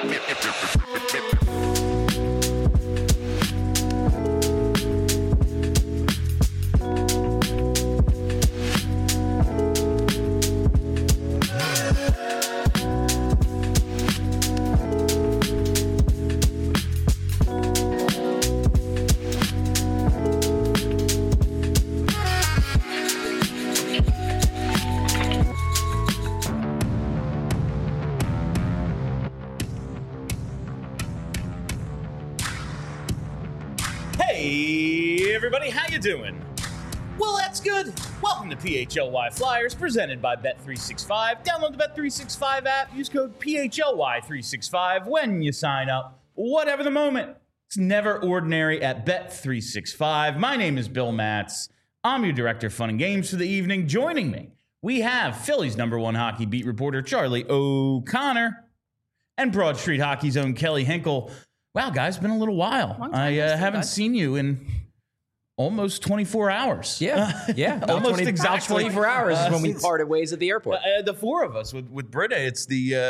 Hey, everybody, how you doing? Well, that's good. Welcome to PHLY Flyers, presented by Bet365. Download the Bet365 app. Use code PHLY365 when you sign up. Whatever the moment, it's never ordinary at Bet365. My name is Bill Matz. I'm your director of fun and games for the evening. Joining me, we have Philly's #1 hockey beat reporter, Charlie O'Connor, and Broad Street Hockey's own Kelly Hinkle. Wow, guys, been a little while. I haven't seen you in almost 24 hours. Yeah. Almost exactly 24 hours is when we parted ways at the airport. The four of us with Britta. It's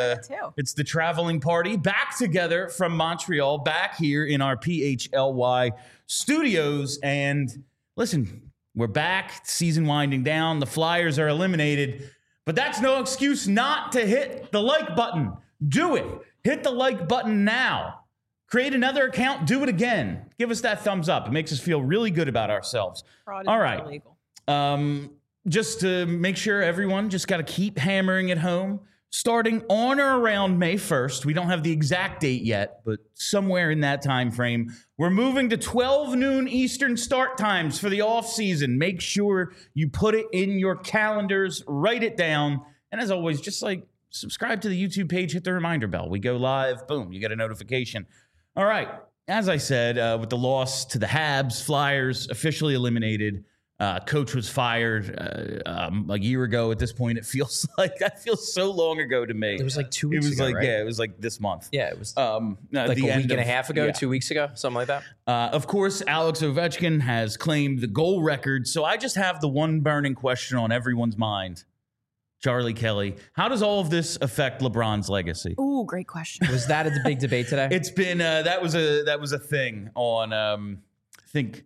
the traveling party back together from Montreal, back here in our PHLY studios. And listen, we're back. Season winding down. The Flyers are eliminated, but that's no excuse not to hit the like button. Do it. Hit the like button now. Create another account. Do it again. Give us that thumbs up. It makes us feel really good about ourselves. All right. Illegal. Just to make sure everyone just got to keep hammering it home. Starting on or around May 1st, we don't have the exact date yet, but somewhere in that time frame, we're moving to 12 noon Eastern start times for the off season. Make sure you put it in your calendars. Write it down. And as always, just subscribe to the YouTube page. Hit the reminder bell. We go live. Boom. You get a notification. All right, as I said, with the loss to the Habs, Flyers officially eliminated. Coach was fired a year ago at this point. It feels so long ago to me. It was like 2 weeks ago, right? Yeah, it was like this month. Yeah, it was like a week and a half ago, 2 weeks ago, something like that. Of course, Alex Ovechkin has claimed the goal record. So I just have the one burning question on everyone's mind. Charlie, Kelly, how does all of this affect LeBron's legacy? Ooh, great question. Was that the big debate today? It's been that was a thing on I think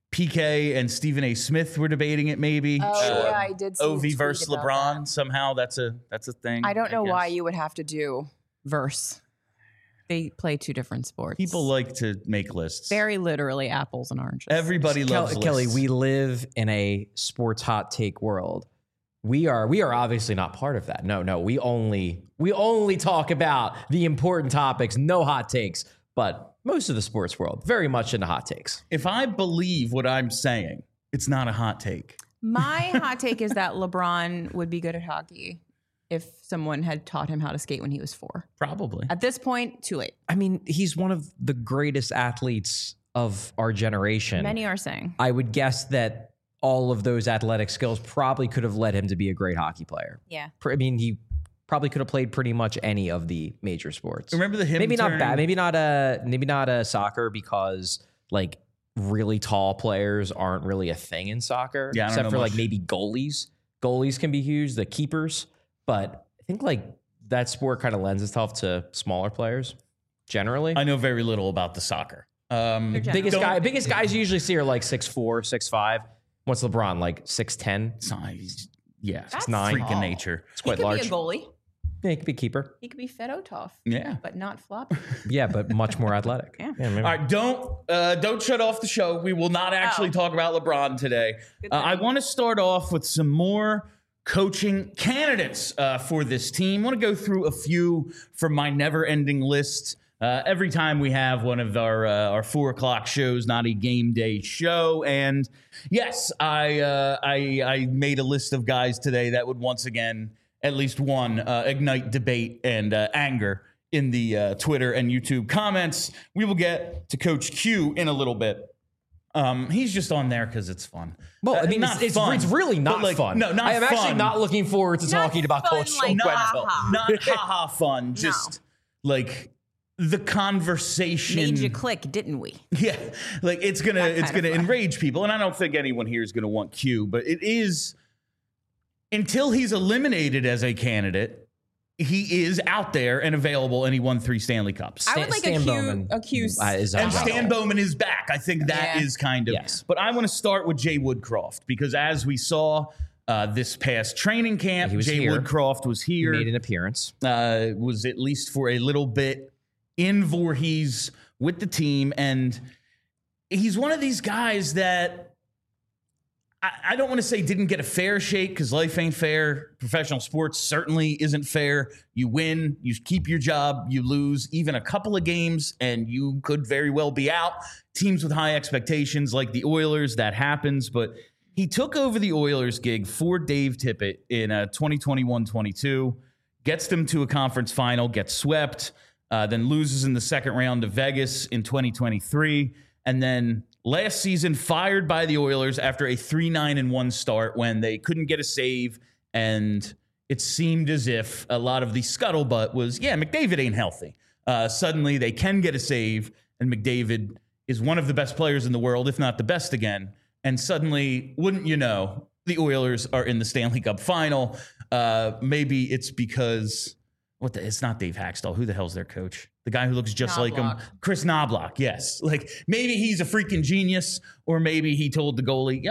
PK and Stephen A. Smith were debating it. Maybe yeah, I did see Ovi versus LeBron. That. Somehow that's a thing. I don't know why you would have to do verse. They play two different sports. People like to make lists. Very literally apples and oranges. Everybody loves lists. Kelly, we live in a sports hot take world. We are obviously not part of that. No, we only talk about the important topics, no hot takes. But most of the sports world, very much into hot takes. If I believe what I'm saying, it's not a hot take. My hot take is that LeBron would be good at hockey if someone had taught him how to skate when he was 4. Probably. At this point, too late. I mean, he's one of the greatest athletes of our generation. Many are saying. I would guess that all of those athletic skills probably could have led him to be a great hockey player. Yeah. I mean, he probably could have played pretty much any of the major sports. Remember the him maybe turn? Not bad. Maybe not a soccer because like really tall players aren't really a thing in soccer. Yeah, except for like maybe goalies. Goalies can be huge, the keepers. But I think like that sport kind of lends itself to smaller players generally. I know very little about the soccer. Biggest guys you usually see are like 6'4", 6'5". What's LeBron, like 6'10"? Yeah, That's 6'9". Freaking tall. nature. It's quite large. He could be a goalie. Yeah, he could be a keeper. He could be Fedotov. Yeah. But not floppy. Yeah, but much more athletic. Yeah. All right, don't shut off the show. We will not actually talk about LeBron today. I want to start off with some more coaching candidates for this team. I want to go through a few from my never-ending list. Every time we have one of our 4 o'clock shows, not a game day show. And yes, I made a list of guys today that would once again, at least one, ignite debate and anger in the Twitter and YouTube comments. We will get to Coach Q in a little bit. He's just on there because it's fun. Well, I mean, it's really not fun. No, not I am fun. actually not looking forward to talking about Coach like Quenneville. Not haha fun. Just like the conversation Made you click, didn't we? Yeah, like it's gonna enrage people, and I don't think anyone here is gonna want Q, but it is until he's eliminated as a candidate. he is out there and available, and he won 3 Stanley Cups. I would like accuse and Stan Bowman is back. I think that is kind of. Yes. But I want to start with Jay Woodcroft, because as we saw this past training camp, Jay Woodcroft was here. He made an appearance. Was at least for a little bit in Voorhees with the team, and he's one of these guys that I don't want to say didn't get a fair shake, because life ain't fair. Professional sports certainly isn't fair. You win, you keep your job, you lose even a couple of games, and you could very well be out. Teams with high expectations like the Oilers, that happens. But he took over the Oilers gig for Dave Tippett in 2021-22, gets them to a conference final, gets swept, then loses in the second round to Vegas in 2023, and then last season fired by the Oilers after a 3-9-1 start when they couldn't get a save, and it seemed as if a lot of the scuttlebutt was, McDavid ain't healthy. Suddenly they can get a save, and McDavid is one of the best players in the world, if not the best again. And suddenly, wouldn't you know, the Oilers are in the Stanley Cup final. Maybe it's because it's not Dave Haxtell. Who the hell's their coach? The guy who looks just like him. Chris Knobloch, yes. Like, maybe he's a freaking genius, or maybe he told the goalie,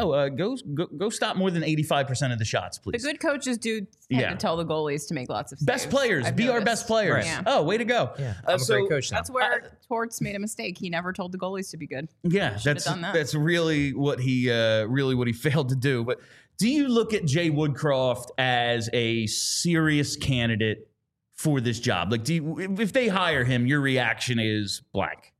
go stop more than 85% of the shots, please. The good coaches do tend to tell the goalies to make lots of saves. Best players. Be our best players. Right. Yeah. Oh, way to go. Yeah, I'm a great coach now. That's where Torts made a mistake. He never told the goalies to be good. Yeah, that's really what he failed to do. But do you look at Jay Woodcroft as a serious candidate for this job? Like, if they hire him, your reaction is blank?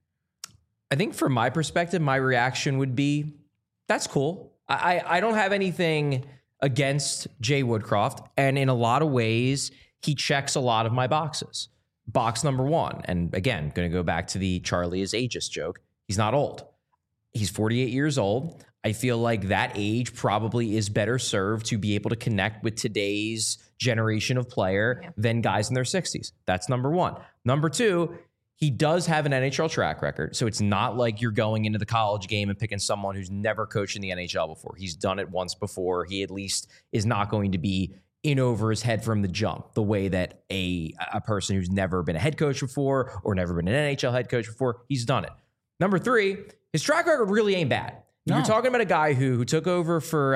I think from my perspective, my reaction would be, that's cool. I don't have anything against Jay Woodcroft. And in a lot of ways, he checks a lot of my boxes. Box number one, and again, going to go back to the Charlie is ageist joke. He's not old. He's 48 years old. I feel like that age probably is better served to be able to connect with today's generation of player than guys in their 60s. That's number one. Number two, he does have an NHL track record. So it's not like you're going into the college game and picking someone who's never coached in the NHL before. He's done it once before. He at least is not going to be in over his head from the jump, the way that a person who's never been a head coach before or never been an NHL head coach before, he's done it. Number three, his track record really ain't bad. No. You're talking about a guy who took over for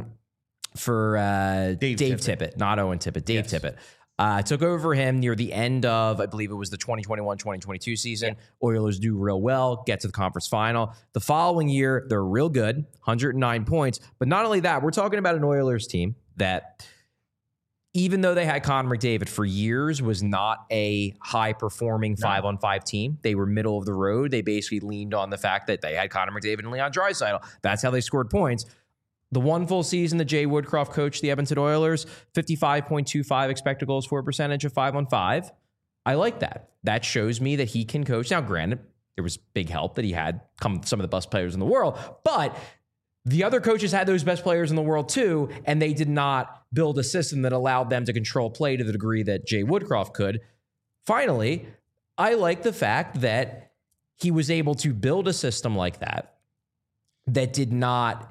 Dave Tippett, not Owen Tippett, Dave Tippett. Took over him near the end of, I believe it was the 2021-2022 season. Yeah. Oilers do real well, get to the conference final. The following year, they're real good, 109 points. But not only that, we're talking about an Oilers team that, even though they had Connor McDavid for years, was not a high-performing 5-on-5 team. They were middle of the road. They basically leaned on the fact that they had Connor McDavid and Leon Draisaitl. That's how they scored points. The one full season that Jay Woodcroft coached the Edmonton Oilers, 55.25 expected goals for percentage of 5-on-5. I like that. That shows me that he can coach. Now, granted, there was big help that he had come some of the best players in the world, but the other coaches had those best players in the world too, and they did not build a system that allowed them to control play to the degree that Jay Woodcroft could. Finally, I like the fact that he was able to build a system like that did not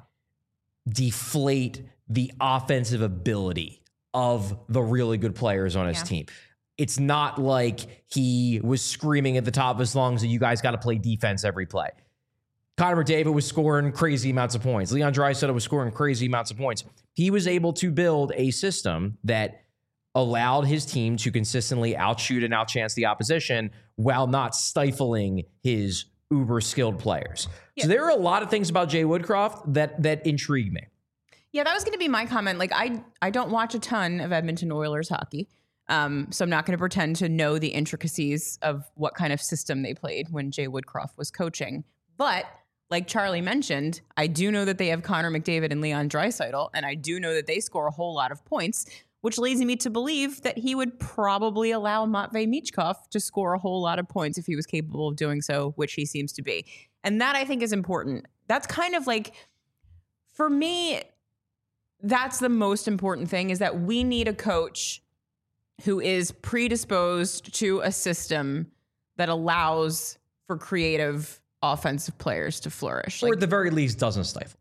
deflate the offensive ability of the really good players on his team. It's not like he was screaming at the top of his lungs that you guys got to play defense every play. Connor McDavid was scoring crazy amounts of points. Leon Draisaitl was scoring crazy amounts of points. He was able to build a system that allowed his team to consistently outshoot and outchance the opposition while not stifling his uber skilled players. Yeah. So there are a lot of things about Jay Woodcroft that intrigue me. Yeah, that was going to be my comment. Like, I don't watch a ton of Edmonton Oilers hockey. So I'm not going to pretend to know the intricacies of what kind of system they played when Jay Woodcroft was coaching. But like Charlie mentioned, I do know that they have Connor McDavid and Leon Draisaitl, and I do know that they score a whole lot of points, which leads me to believe that he would probably allow Matvei Michkov to score a whole lot of points if he was capable of doing so, which he seems to be. And that, I think, is important. That's kind of like, for me, that's the most important thing, is that we need a coach who is predisposed to a system that allows for creative offensive players to flourish. Or at the very least, doesn't stifle.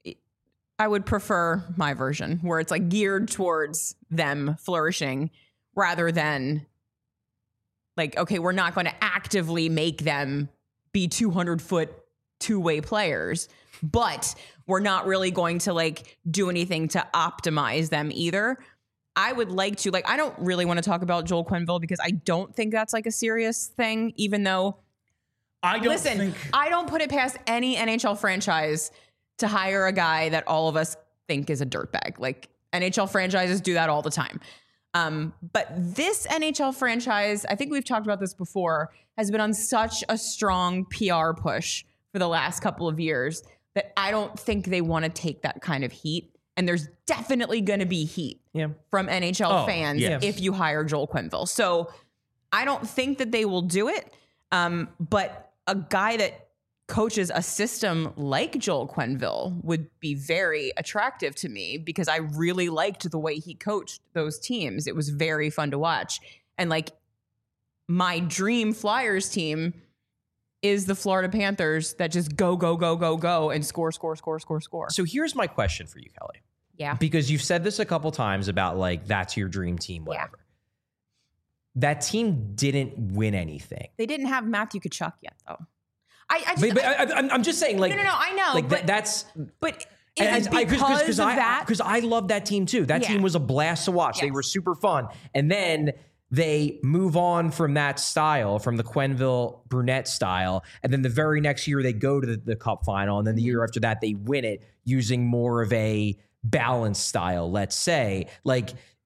I would prefer my version, where it's like geared towards them flourishing, rather than like, okay, we're not going to actively make them be 200-foot two-way players, but we're not really going to like do anything to optimize them either. I would like to, like, I don't really want to talk about Joel Quenneville because I don't think that's like a serious thing, even though I don't put it past any NHL franchise to hire a guy that all of us think is a dirtbag. Like, NHL franchises do that all the time. But this NHL franchise, I think we've talked about this before, has been on such a strong PR push for the last couple of years that I don't think they want to take that kind of heat. And there's definitely going to be heat from NHL fans if you hire Joel Quenneville. So I don't think that they will do it. But a guy that coaches a system like Joel Quenneville would be very attractive to me because I really liked the way he coached those teams. It was very fun to watch. And like my dream Flyers team is the Florida Panthers that just go and score. So here's my question for you, Kelly. Yeah. Because you've said this a couple times about like, that's your dream team, whatever. Yeah. That team didn't win anything. They didn't have Matthew Tkachuk yet, though. I'm just saying, like, no, I know, like but that's. But is it because of that? Because I love that team too. That team was a blast to watch. Yes. They were super fun, and then they move on from that style, from the Quenneville Brunette style, and then the very next year they go to the Cup final, and then the year after that they win it using more of a balanced style. Let's say, like.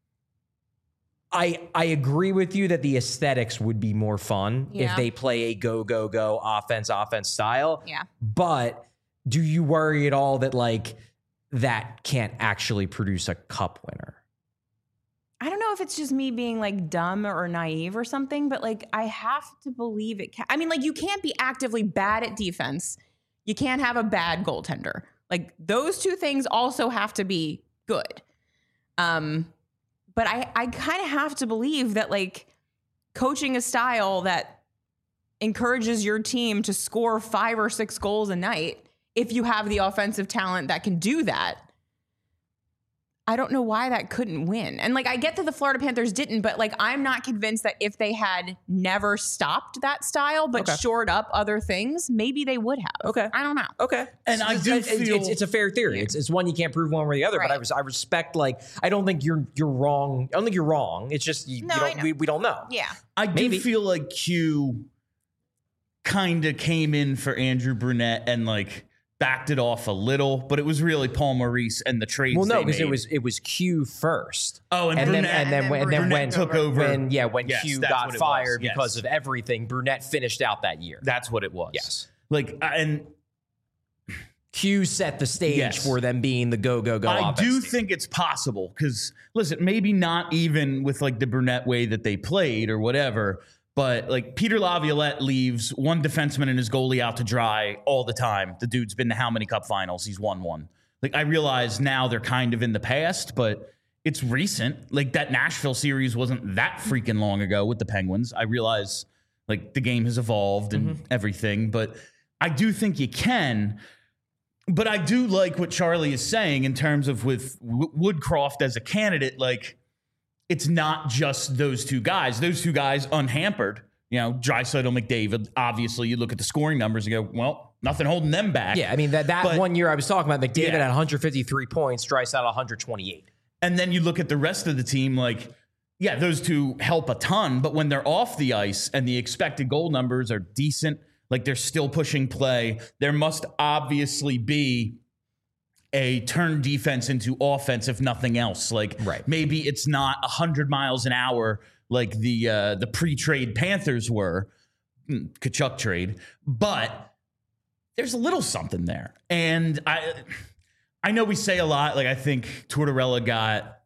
I agree with you that the aesthetics would be more fun if they play a go offense style. Yeah. But do you worry at all that like that can't actually produce a cup winner? I don't know if it's just me being like dumb or naive or something, but like I have to believe it can. I mean, like you can't be actively bad at defense. You can't have a bad goaltender. Like those two things also have to be good. But I kind of have to believe that like coaching a style that encourages your team to score 5 or 6 goals a night, if you have the offensive talent that can do that, I don't know why that couldn't win. And like I get that the Florida Panthers didn't, but like I'm not convinced that if they had never stopped that style but shored up other things, maybe they would have. Okay. I don't know. Okay. And I do feel it's a fair theory. Yeah. It's one you can't prove one way or the other, but I respect like I don't think you're wrong. I don't think you're wrong. It's just we don't know. Yeah. I do feel like Q kind of came in for Andrew Brunette and like backed it off a little, but it was really Paul Maurice and the trades. Well, no, because it was Q first. Oh, and then when took over. When Q got fired because of everything, Brunette finished out that year. That's what it was. Yes, like and Q set the stage for them being the go. I do think it's possible because listen, maybe not even with like the Brunette way that they played or whatever. But like Peter Laviolette leaves one defenseman and his goalie out to dry all the time. The dude's been to how many cup finals? He's won one. Like I realize now they're kind of in the past, but it's recent. Like that Nashville series wasn't that freaking long ago with the Penguins. I realize like the game has evolved and everything, but I do think you can. But I do like what Charlie is saying in terms of with Woodcroft as a candidate, like it's not just those two guys. Those two guys unhampered, you know, Draisaitl, McDavid. Obviously, you look at the scoring numbers and go, well, nothing holding them back. Yeah, I mean, that one year I was talking about, McDavid had 153 points, Draisaitl 128. And then you look at the rest of the team, like, yeah, those two help a ton. But when they're off the ice and the expected goal numbers are decent, like they're still pushing play, there must obviously be a turn defense into offense, if nothing else. Like maybe it's not 100 miles an hour like the pre-trade Panthers were, Tkachuk trade, but there's a little something there. And I know we say a lot, like I think Tortorella got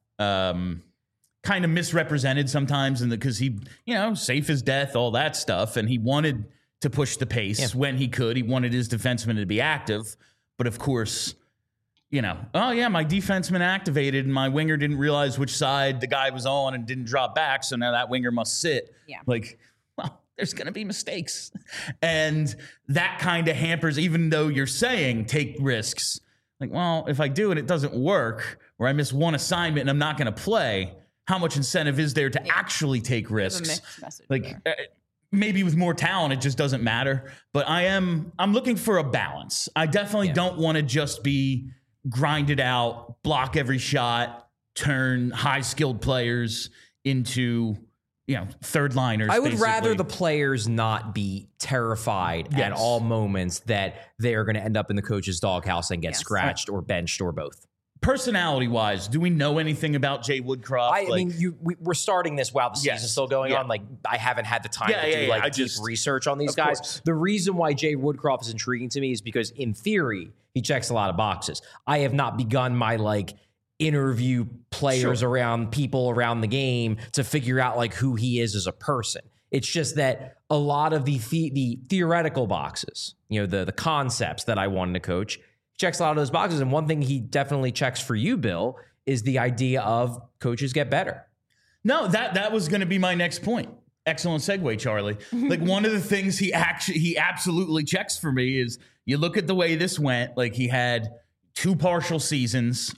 kind of misrepresented sometimes because he, you know, safe as death, all that stuff. And he wanted to push the pace when he could. He wanted his defensemen to be active. But of course, you know, oh, yeah, my defenseman activated and my winger didn't realize which side the guy was on and didn't drop back. So now that winger must sit. Yeah. Like, well, there's going to be mistakes. And that kind of hampers, even though you're saying take risks. Like, well, if I do and it doesn't work or I miss one assignment and I'm not going to play, how much incentive is there to actually take risks? Mixed message Like there. maybe with more talent, it just doesn't matter. But I'm looking for a balance. I definitely don't want to just be grinded out, block every shot, turn high skilled players into, third liners. I would basically. rather the players not be terrified at all moments that they are going to end up in the coach's doghouse and get scratched or benched or both. Personality wise, do we know anything about Jay Woodcroft? I mean, we're starting this while the season's still going on. Like, I haven't had the time to do deep research on these guys. Course. The reason why Jay Woodcroft is intriguing to me is because, in theory, he checks a lot of boxes. I have not begun my interview players around people around the game to figure out who he is as a person. It's just that a lot of the theoretical boxes, the concepts that I wanted to coach, checks a lot of those boxes. And one thing he definitely checks for you, Bill, is the idea of coaches get better. No, that was going to be my next point. Excellent segue, Charlie. One of the things he absolutely checks for me is you look at the way this went. He had 2 partial seasons,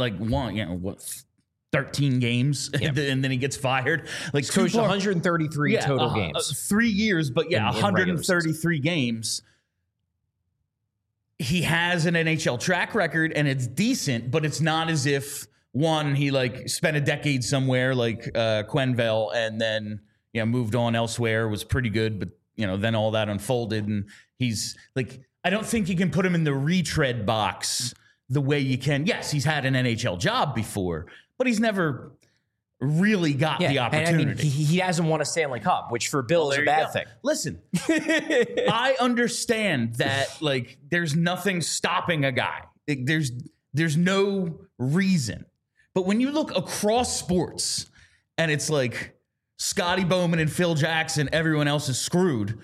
13 games, and then he gets fired. He's coached 133 total games. 3 years, but in 133 games. He has an NHL track record, and it's decent, but it's not as if, one, he spent a decade somewhere like Quenneville and then moved on elsewhere, was pretty good, but then all that unfolded, and he's I don't think you can put him in the retread box the way you can. Yes, he's had an NHL job before, but he's never really got the opportunity. And, he hasn't won a Stanley Cup, which for Bill is a bad thing. Listen, I understand that there's nothing stopping a guy. There's no reason. But when you look across sports and it's Scotty Bowman and Phil Jackson, everyone else is screwed.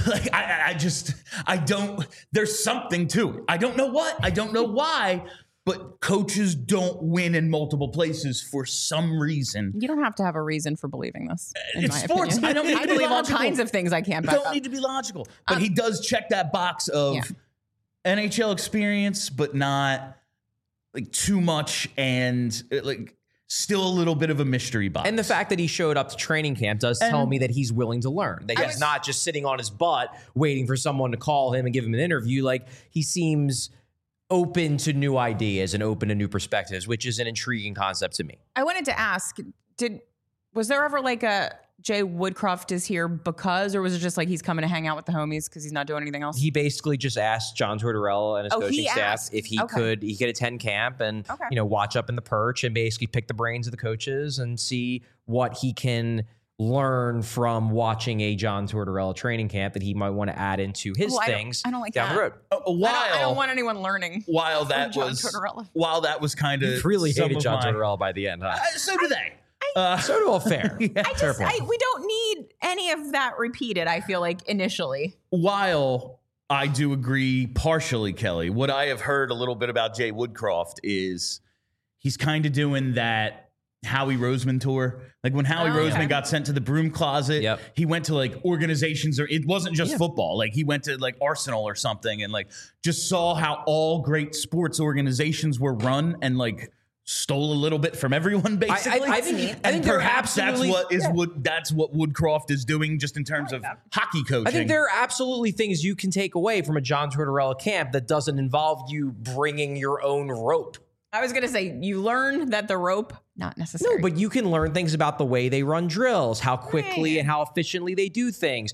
I don't, there's something to it. I don't know what, I don't know why, but coaches don't win in multiple places for some reason. You don't have to have a reason for believing this. It's sports. Opinion. I don't need to believe be all logical. kinds of things I can't back Don't up. need to be logical. But he does check that box of NHL experience, but not too much and still a little bit of a mystery box. And the fact that he showed up to training camp does tell me that he's willing to learn. That he's not just sitting on his butt waiting for someone to call him and give him an interview. He seems open to new ideas and open to new perspectives, which is an intriguing concept to me. I wanted to ask, was there ever a Jay Woodcroft is here because, or was it just he's coming to hang out with the homies because he's not doing anything else? He basically just asked John Tortorella and his coaching staff if he could attend camp and watch up in the perch and basically pick the brains of the coaches and see what he can learn from watching a John Tortorella training camp that he might want to add into his things I don't like down that. the road. I don't want anyone learning. While that was kind of you really hated John Tortorella by the end, huh? So do they. So do all fair. we don't need any of that repeated, I feel initially. While I do agree partially, Kelly, what I have heard a little bit about Jay Woodcroft is he's kind of doing that Howie Roseman tour. When Howie Roseman got sent to the broom closet, he went to organizations, or it wasn't just football. He went to Arsenal or something and just saw how all great sports organizations were run and stole a little bit from everyone, basically. I think perhaps that's what Woodcroft is doing, just in terms of hockey coaching. I think there are absolutely things you can take away from a John Tortorella camp that doesn't involve you bringing your own rope. I was going to say, you learn that the rope, not necessary. No, but you can learn things about the way they run drills, how quickly and how efficiently they do things.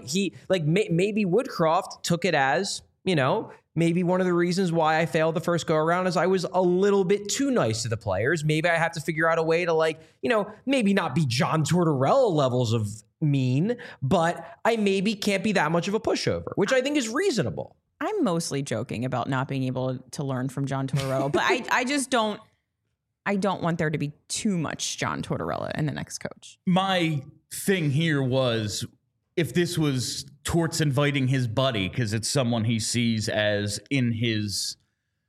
Maybe Woodcroft took it as, maybe one of the reasons why I failed the first go around is I was a little bit too nice to the players. Maybe I have to figure out a way to maybe not be John Tortorella levels of mean, but I maybe can't be that much of a pushover, which I think is reasonable. I'm mostly joking about not being able to learn from John Tortorella, but I just don't want there to be too much John Tortorella in the next coach. My thing here was, if this was Torts inviting his buddy because it's someone he sees as in his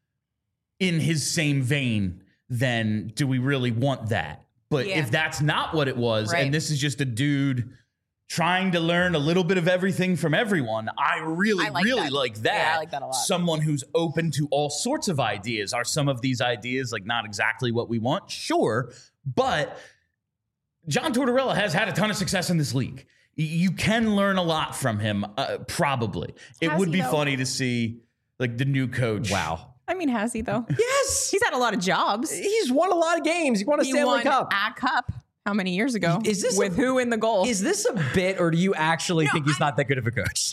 same vein, then do we really want that? But if that's not what it was, and this is just a dude trying to learn a little bit of everything from everyone, I really like that. Yeah, I like that a lot. Someone who's open to all sorts of ideas. Are some of these ideas not exactly what we want? Sure. But John Tortorella has had a ton of success in this league. You can learn a lot from him, probably. It would be funny to see like the new coach. Wow. I mean, has he though? Yes. He's had a lot of jobs. He's won a lot of games. He won a Stanley Cup. A cup. How many years ago? Is this with who in the goal? Is this a bit, or do you actually think he's not that good of a coach?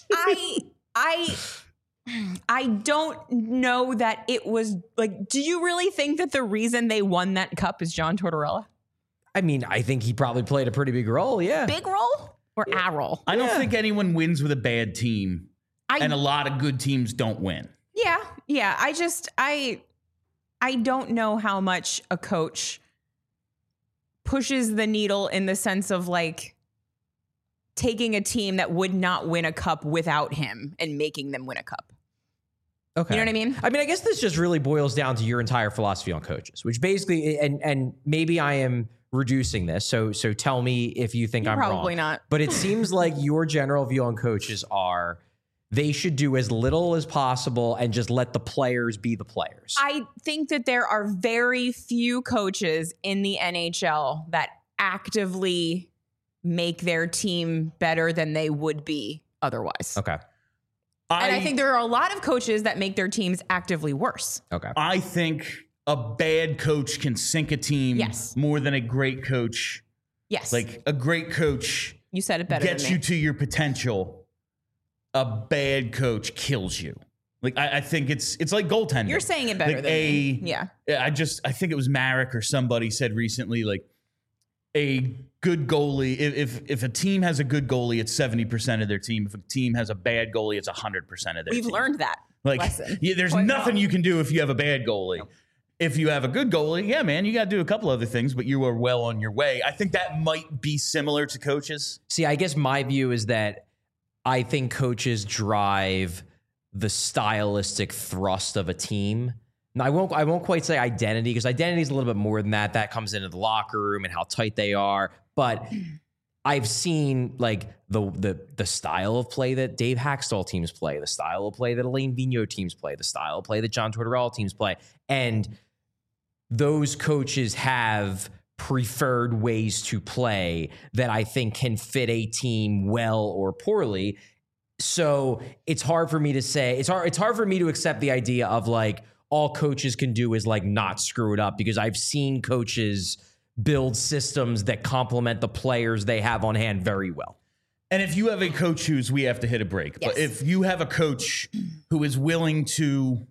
I don't know that it was like, do you really think that the reason they won that cup is John Tortorella? I mean, I think he probably played a pretty big role. Yeah. Big role or a role? I don't think anyone wins with a bad team, and a lot of good teams don't win. Yeah. I don't know how much a coach pushes the needle in the sense of like taking a team that would not win a cup without him and making them win a cup. Okay. You know what I mean? I mean, I guess this just really boils down to your entire philosophy on coaches, which basically, and maybe I am reducing this. So tell me if you think I'm wrong. Probably not. But it seems like your general view on coaches are they should do as little as possible and just let the players be the players. I think that there are very few coaches in the NHL that actively make their team better than they would be otherwise. Okay. And I think there are a lot of coaches that make their teams actively worse. Okay. I think a bad coach can sink a team more than a great coach. Yes. Like a great coach you said it better gets than me. you to your potential. A bad coach kills you. Like I think it's like goaltending. You're saying it better like than me. Yeah. I think it was Marek or somebody said recently, like a good goalie. If a team has a good goalie, it's 70% of their team. If a team has a bad goalie, it's 100% of their team. We've learned that lesson. There's nothing you can do if you have a bad goalie. No. If you have a good goalie, yeah, man, you got to do a couple other things, but you are well on your way. I think that might be similar to coaches. See, I guess my view is that I think coaches drive the stylistic thrust of a team. Now, I won't quite say identity, because identity is a little bit more than that. That comes into the locker room and how tight they are. But I've seen like the style of play that Dave Haxtell teams play, the style of play that Alain Vigneault teams play, the style of play that John Tortorella teams play, and those coaches have preferred ways to play that I think can fit a team well or poorly. So it's hard for me to say, it's hard for me to accept the idea of like all coaches can do is like not screw it up, because I've seen coaches build systems that complement the players they have on hand very well. And if you have a coach we have to hit a break, but if you have a coach who is willing to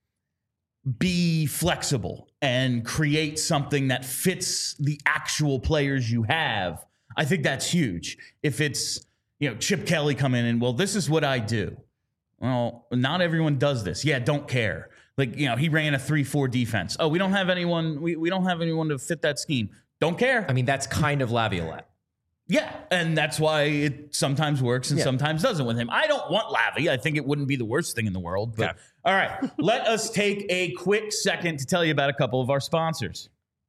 be flexible and create something that fits the actual players you have, I think that's huge. If it's, Chip Kelly come in and, well, this is what I do. Well, not everyone does this. Yeah, don't care. Like, he ran a 3-4 defense. Oh, we don't have anyone. We don't have anyone to fit that scheme. Don't care. I mean, that's kind of Laviolette. Yeah, and that's why it sometimes works and sometimes doesn't with him. I don't want Lavi. I think it wouldn't be the worst thing in the world. But all right, let us take a quick second to tell you about a couple of our sponsors.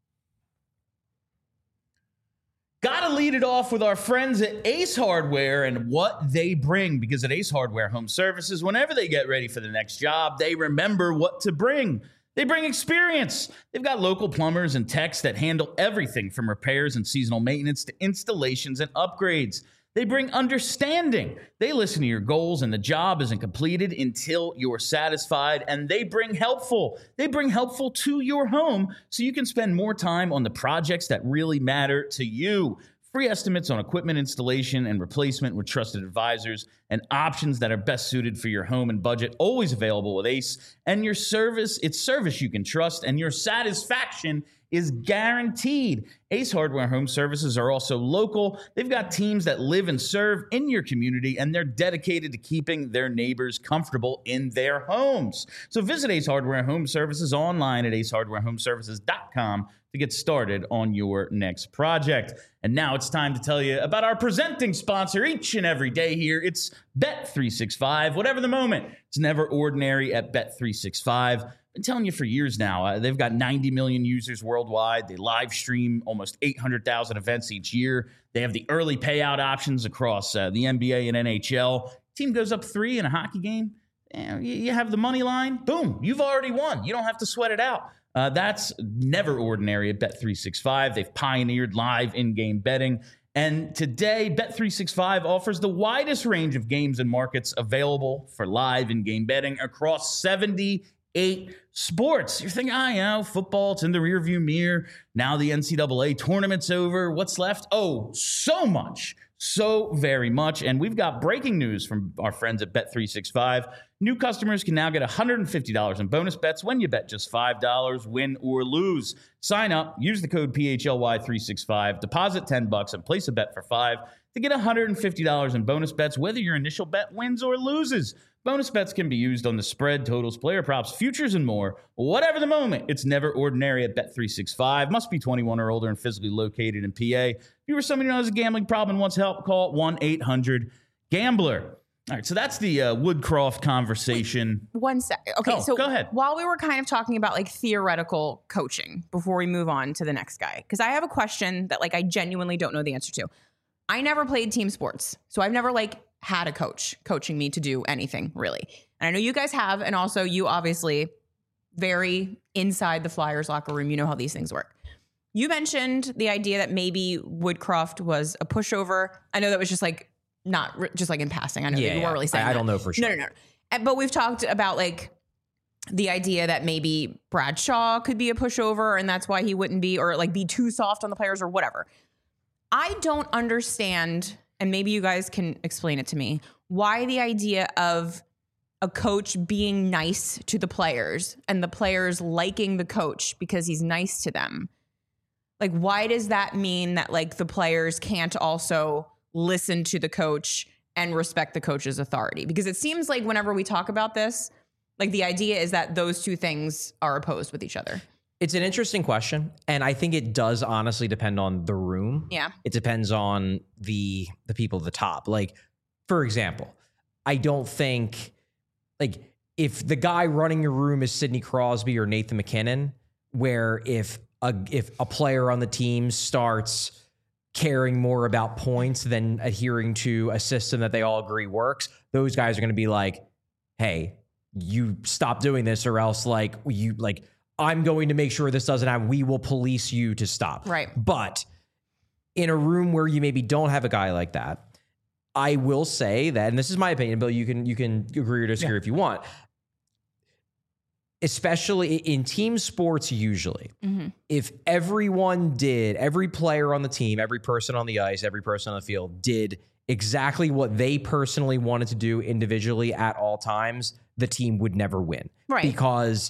Got to lead it off with our friends at Ace Hardware and what they bring, because at Ace Hardware Home Services, whenever they get ready for the next job, they remember what to bring. They bring experience. They've got local plumbers and techs that handle everything from repairs and seasonal maintenance to installations and upgrades. They bring understanding. They listen to your goals, and the job isn't completed until you're satisfied. And they bring helpful. They bring helpful to your home so you can spend more time on the projects that really matter to you. Free estimates on equipment installation and replacement with trusted advisors, and options that are best suited for your home and budget. Always available with Ace. And your service, it's service you can trust, and your satisfaction is guaranteed. Ace Hardware Home Services are also local. They've got teams that live and serve in your community, and they're dedicated to keeping their neighbors comfortable in their homes. So visit Ace Hardware Home Services online at acehardwarehomeservices.com to get started on your next project. And now it's time to tell you about our presenting sponsor each and every day here. It's Bet365. Whatever the moment, it's never ordinary at Bet365. Been telling you for years now, they've got 90 million users worldwide. They live stream almost 800,000 events each year. They have the early payout options across the NBA and NHL. Team goes up 3 in a hockey game. You have the money line. Boom, you've already won. You don't have to sweat it out. That's never ordinary at Bet365. They've pioneered live in-game betting. And today, Bet365 offers the widest range of games and markets available for live in-game betting across 78 sports. You're thinking, football, it's in the rearview mirror. Now the NCAA tournament's over. What's left? Oh, so much. So very much. And we've got breaking news from our friends at Bet365. New customers can now get $150 in bonus bets when you bet just $5, win or lose. Sign up, use the code PHLY365, deposit $10 and place a bet for $5 to get $150 in bonus bets, whether your initial bet wins or loses. Bonus bets can be used on the spread, totals, player props, futures, and more. Whatever the moment, it's never ordinary at Bet365. Must be 21 or older and physically located in PA. If you or somebody who has a gambling problem and wants help, call 1-800-GAMBLER. All right, so that's the Woodcroft conversation. Wait, 1 sec. Okay, so go ahead. While we were kind of talking about like theoretical coaching before we move on to the next guy, because I have a question that like I genuinely don't know the answer to. I never played team sports, so I've never like had a coach coaching me to do anything really. And I know you guys have, and also you obviously very inside the Flyers locker room. You know how these things work. You mentioned the idea that maybe Woodcroft was a pushover. I know that was just like not just like in passing. I know that you weren't really saying I don't know for sure. No. But we've talked about like the idea that maybe Bradshaw could be a pushover and that's why he wouldn't be, or like be too soft on the players or whatever. I don't understand, and maybe you guys can explain it to me, why the idea of a coach being nice to the players and the players liking the coach because he's nice to them. Like, why does that mean that like the players can't also listen to the coach and respect the coach's authority? Because it seems like whenever we talk about this, like the idea is that those two things are opposed with each other. It's an interesting question, and I think it does honestly depend on the room. Yeah. It depends on the people at the top. Like, for example, I don't think, like, if the guy running your room is Sidney Crosby or Nathan McKinnon, where if a player on the team starts caring more about points than adhering to a system that they all agree works, those guys are going to be like, hey, you stop doing this or else I'm going to make sure this doesn't happen. We will police you to stop. Right. But in a room where you maybe don't have a guy like that, I will say that, and this is my opinion, Bill, you can agree or disagree if you want, especially in team sports, usually, if every player on the team, every person on the ice, every person on the field did exactly what they personally wanted to do individually at all times, the team would never win. Right. Because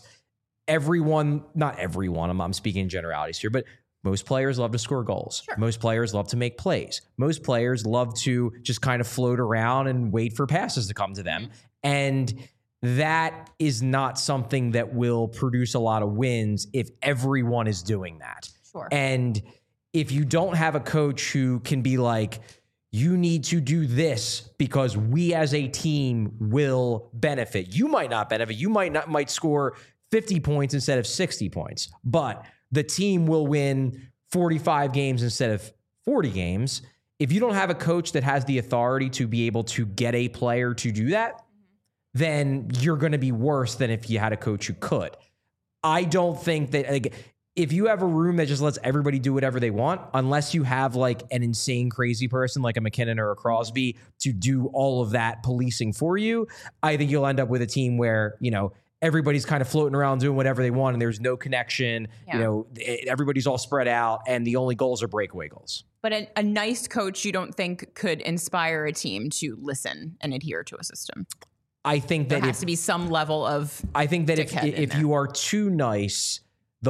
not everyone, I'm speaking in generalities here, but most players love to score goals. Sure. Most players love to make plays. Most players love to just kind of float around and wait for passes to come to them. And that is not something that will produce a lot of wins if everyone is doing that. Sure. And if you don't have a coach who can be like, you need to do this because we as a team will benefit. You might not benefit. You might score 50 points instead of 60 points, but the team will win 45 games instead of 40 games. If you don't have a coach that has the authority to be able to get a player to do that, then you're going to be worse than if you had a coach who could. I don't think that, like, if you have a room that just lets everybody do whatever they want, unless you have like an insane crazy person like a McKinnon or a Crosby to do all of that policing for you, I think you'll end up with a team where, everybody's kind of floating around doing whatever they want and there's no connection. Yeah. Everybody's all spread out and the only goals are breakaway goals. But a nice coach, you don't think could inspire a team to listen and adhere to a system? I think that there has to be some level of. I think that if you are too nice, a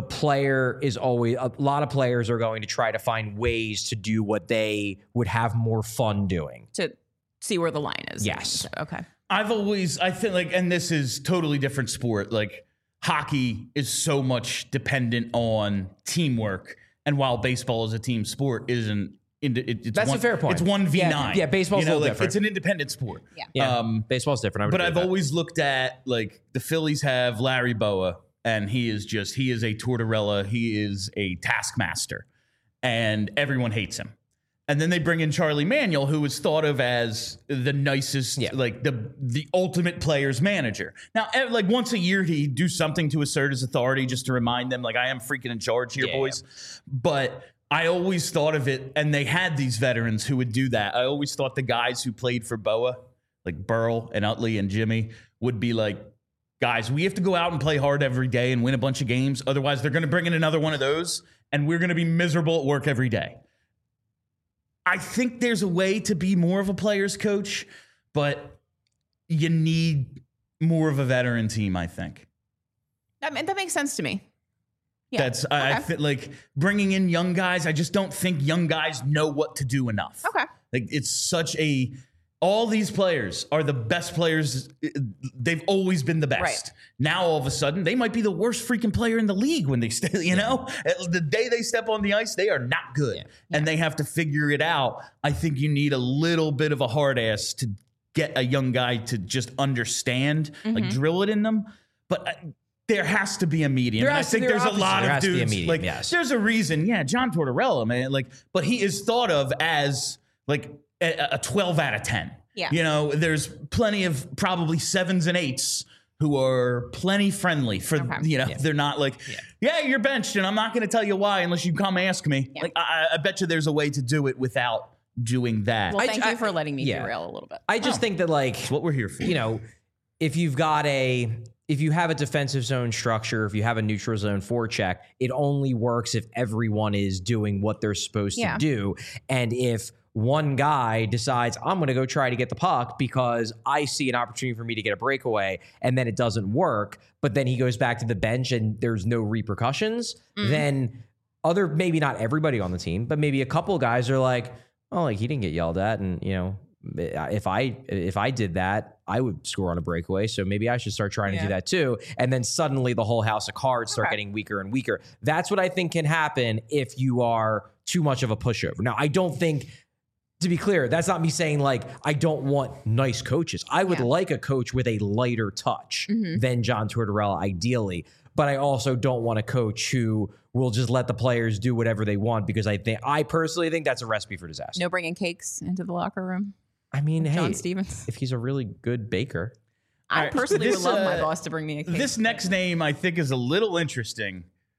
lot of players are going to try to find ways to do what they would have more fun doing. To see where the line is. Yes. Okay. I think like, and this is totally different sport. Like hockey is so much dependent on teamwork. And while baseball is a team sport, that's a fair point. It's 1v9. Yeah, baseball's a little different. It's an independent sport. Yeah. Baseball's different. But I've always looked at, like, the Phillies have Larry Boa, and he is a Tortorella. He is a taskmaster, and everyone hates him. And then they bring in Charlie Manuel, who was thought of as the nicest, like the ultimate player's manager. Now, like once a year, he'd do something to assert his authority just to remind them, like, I am freaking in charge here, boys. But I always thought of it, and they had these veterans who would do that. I always thought the guys who played for Boa, like Burl and Utley and Jimmy, would be like, guys, we have to go out and play hard every day and win a bunch of games. Otherwise, they're going to bring in another one of those, and we're going to be miserable at work every day. I think there's a way to be more of a player's coach, but you need more of a veteran team, I think. That makes sense to me. Yeah. I feel like bringing in young guys, I just don't think young guys know what to do enough. Okay. Like it's such a... All these players are the best players. They've always been the best. Right. Now, all of a sudden, they might be the worst freaking player in the league when they know? The day they step on the ice, they are not good. And they have to figure it out. I think you need a little bit of a hard ass to get a young guy to just understand, like drill it in them. But there has to be a medium. I think there's a lot of dudes. Like, there's a reason. Yeah, John Tortorella, man. Like, but he is thought of as like a 12 out of 10. Yeah. You know, there's plenty of probably 7s and 8s who are plenty friendly for, they're not like, you're benched and I'm not going to tell you why unless you come ask me. Yeah. Like, I bet you there's a way to do it without doing that. Well, thank you for letting me derail a little bit. I just think that, like, that's what we're here for. You know, if you have a defensive zone structure, if you have a neutral zone forecheck, it only works if everyone is doing what they're supposed to do. And if one guy decides, I'm going to go try to get the puck because I see an opportunity for me to get a breakaway, and then it doesn't work, but then he goes back to the bench and there's no repercussions, then maybe not everybody on the team, but maybe a couple of guys are like, oh, like he didn't get yelled at, and you know, if I did that, I would score on a breakaway. So maybe I should start trying to do that too. And then suddenly the whole house of cards start getting weaker and weaker. That's what I think can happen if you are too much of a pushover. Now, I don't think, to be clear, that's not me saying like I don't want nice coaches. I would like a coach with a lighter touch than John Tortorella, ideally. But I also don't want a coach who will just let the players do whatever they want, because I personally think that's a recipe for disaster. No bringing cakes into the locker room. I mean, John Stevens, if he's a really good baker. I personally would love my boss to bring me a cake. This next name I think is a little interesting.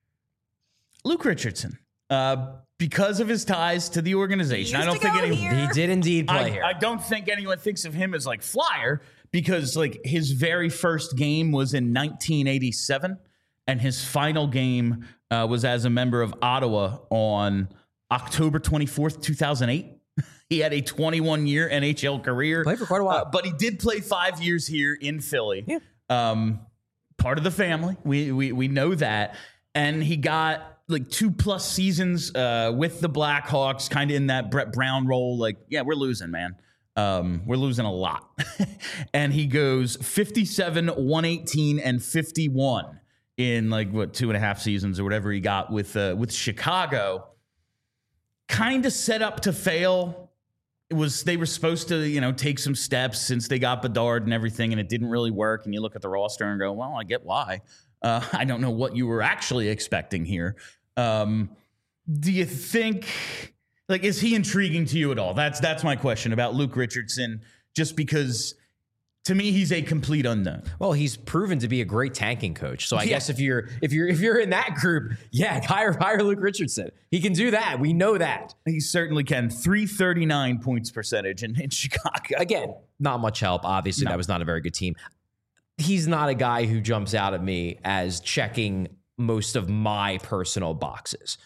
Luke Richardson. Because of his ties to the organization. I don't think he did indeed play here. I don't think anyone thinks of him as like flyer, because like his very first game was in 1987 and his final game was as a member of Ottawa on October 24th, 2008. He had a 21-year NHL career. Played for quite a while. But he did play 5 years here in Philly. Yeah. Part of the family. We know that. And he got like 2+ seasons with the Blackhawks, kind of in that Brett Brown role. Like, yeah, we're losing, man. We're losing a lot. And he goes 57, 118, and 51 in like, 2.5 seasons or whatever he got with Chicago. Kind of set up to fail. They were supposed to, take some steps since they got Bedard and everything, and it didn't really work. And you look at the roster and go, well, I get why. I don't know what you were actually expecting here. Do you think, like, is he intriguing to you at all? That's my question about Luke Richardson, just because to me, he's a complete unknown. Well, he's proven to be a great tanking coach. So I guess if you're in that group, hire Luke Richardson. He can do that. We know that. He certainly can. 339 points percentage in Chicago. Again, not much help. Obviously, that was not a very good team. He's not a guy who jumps out at me as checking most of my personal boxes.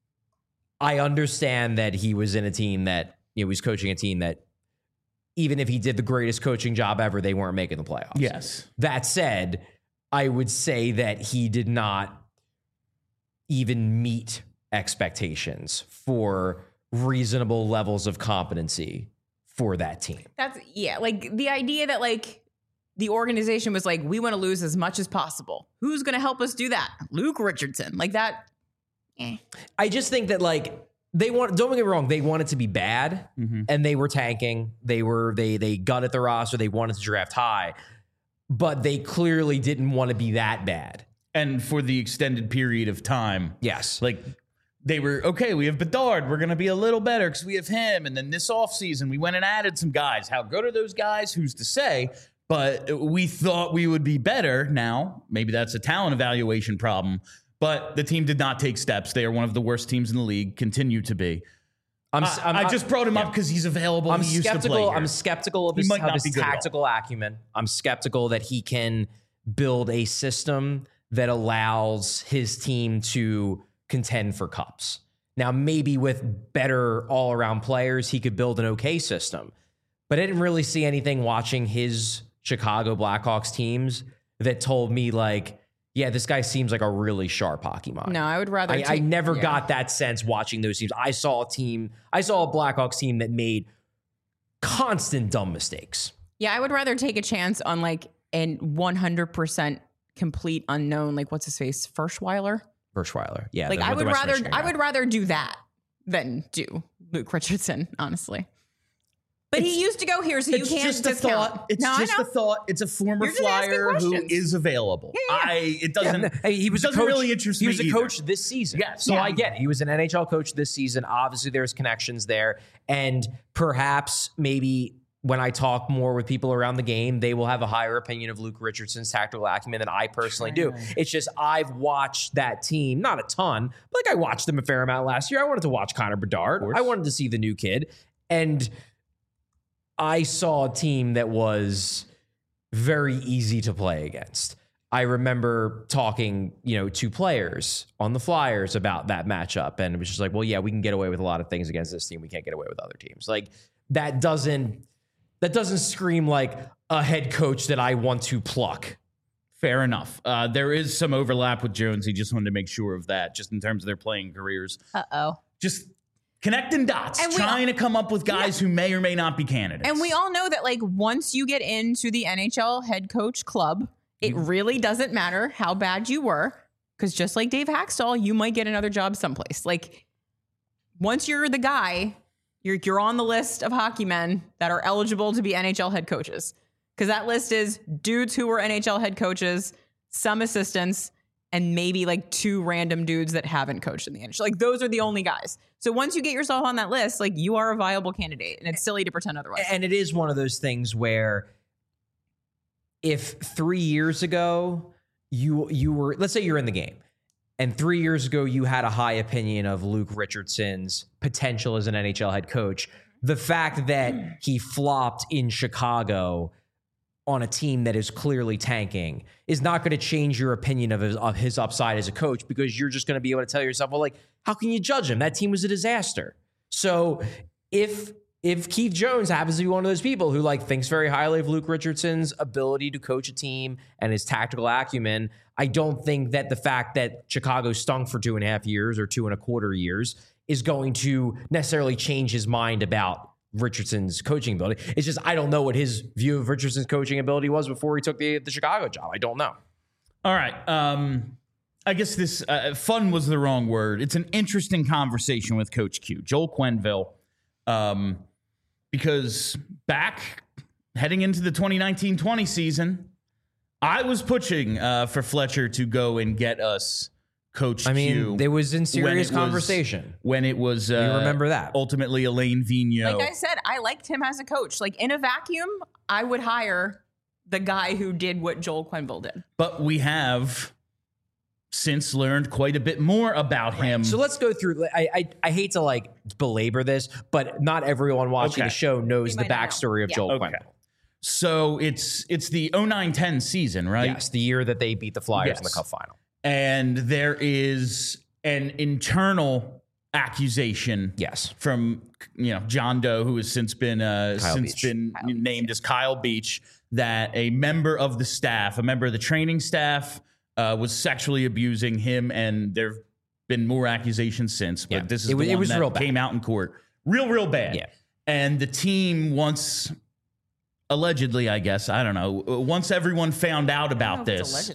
I understand that he was in a team that, he was coaching a team that, even if he did the greatest coaching job ever, they weren't making the playoffs. Yes. That said, I would say that he did not even meet expectations for reasonable levels of competency for that team. Like the idea that like the organization was like, we want to lose as much as possible. Who's going to help us do that? Luke Richardson. Like that. I just think that like, don't get me wrong, they wanted to be bad, and they were tanking. They gutted the roster. They wanted to draft high, but they clearly didn't want to be that bad. And for the extended period of time. Yes. Like they were, okay, we have Bedard. We're going to be a little better because we have him. And then this offseason, we went and added some guys. How good are those guys? Who's to say? But we thought we would be better. Now, maybe that's a talent evaluation problem. But the team did not take steps. They are one of the worst teams in the league, continue to be. I just brought him up because he's available. I'm he used to play here. I'm skeptical of his tactical acumen. I'm skeptical that he can build a system that allows his team to contend for cups. Now, maybe with better all-around players, he could build an okay system. But I didn't really see anything watching his Chicago Blackhawks teams that told me, like, yeah, this guy seems like a really sharp hockey mind. No, I would rather. I never got that sense watching those teams. I saw a Blackhawks team that made constant dumb mistakes. Yeah, I would rather take a chance on like a 100% complete unknown, like what's his face, Ferschweiler. Yeah. Like I would rather do that than do Luke Richardson, honestly. But he used to go here, so you can't just discount. Thought. It's just a thought. It's a former Flyer who is available. Yeah. It doesn't. He was doesn't a coach, really interest me. He was a coach this season. Yes. So I get it. He was an NHL coach this season. Obviously, there's connections there, and perhaps maybe when I talk more with people around the game, they will have a higher opinion of Luke Richardson's tactical acumen than I personally do. It's just I've watched that team, not a ton, but like I watched them a fair amount last year. I wanted to watch Connor Bedard. I wanted to see the new kid, and I saw a team that was very easy to play against. I remember talking, to players on the Flyers about that matchup, and it was just like, well, yeah, we can get away with a lot of things against this team. We can't get away with other teams. Like that doesn't scream like a head coach that I want to pluck. Fair enough. There is some overlap with Jones. He just wanted to make sure of that, just in terms of their playing careers. Just connecting dots, trying to come up with guys who may or may not be candidates. And we all know that, like, once you get into the NHL head coach club, it really doesn't matter how bad you were, because just like Dave Haxtell, you might get another job someplace. Like, once you're the guy, you're on the list of hockey men that are eligible to be NHL head coaches, because that list is dudes who were NHL head coaches, some assistants, and maybe like 2 random dudes that haven't coached in the NHL. Like those are the only guys. So once you get yourself on that list, like you are a viable candidate, and it's silly to pretend otherwise. And it is one of those things where if 3 years ago you were, let's say you're in the game, and 3 years ago you had a high opinion of Luke Richardson's potential as an NHL head coach, the fact that he flopped in Chicago on a team that is clearly tanking is not going to change your opinion of his upside as a coach, because you're just going to be able to tell yourself, well, like, how can you judge him? That team was a disaster. So if Keith Jones happens to be one of those people who like thinks very highly of Luke Richardson's ability to coach a team and his tactical acumen, I don't think that the fact that Chicago stunk for 2.5 years or 2.25 years is going to necessarily change his mind about Richardson's coaching ability. It's just, I don't know what his view of Richardson's coaching ability was before he took the Chicago job. I don't know. All right. I guess this fun was the wrong word. It's an interesting conversation with Coach Q, Joel Quenneville, because back heading into the 2019-20 season, I was pushing for Fletcher to go and get us Coach Q. There was in serious conversation. When it was, you remember that. Ultimately, Alain Vigneault. Like I said, I liked him as a coach. Like in a vacuum, I would hire the guy who did what Joel Quenneville did. But we have since learned quite a bit more about him. So let's go through. I hate to like belabor this, but not everyone watching the show knows the backstory of Joel Quenneville. So it's the 09-10 season, right? Yes, the year that they beat the Flyers in the Cup final. And there is an internal accusation, from John Doe, who has since been named as Kyle Beach, that a member of the staff, a member of the training staff, was sexually abusing him, and there've been more accusations since. But this is the one that real came out in court, real bad. Yeah. And the team once, allegedly, I guess, I don't know, once everyone found out about this.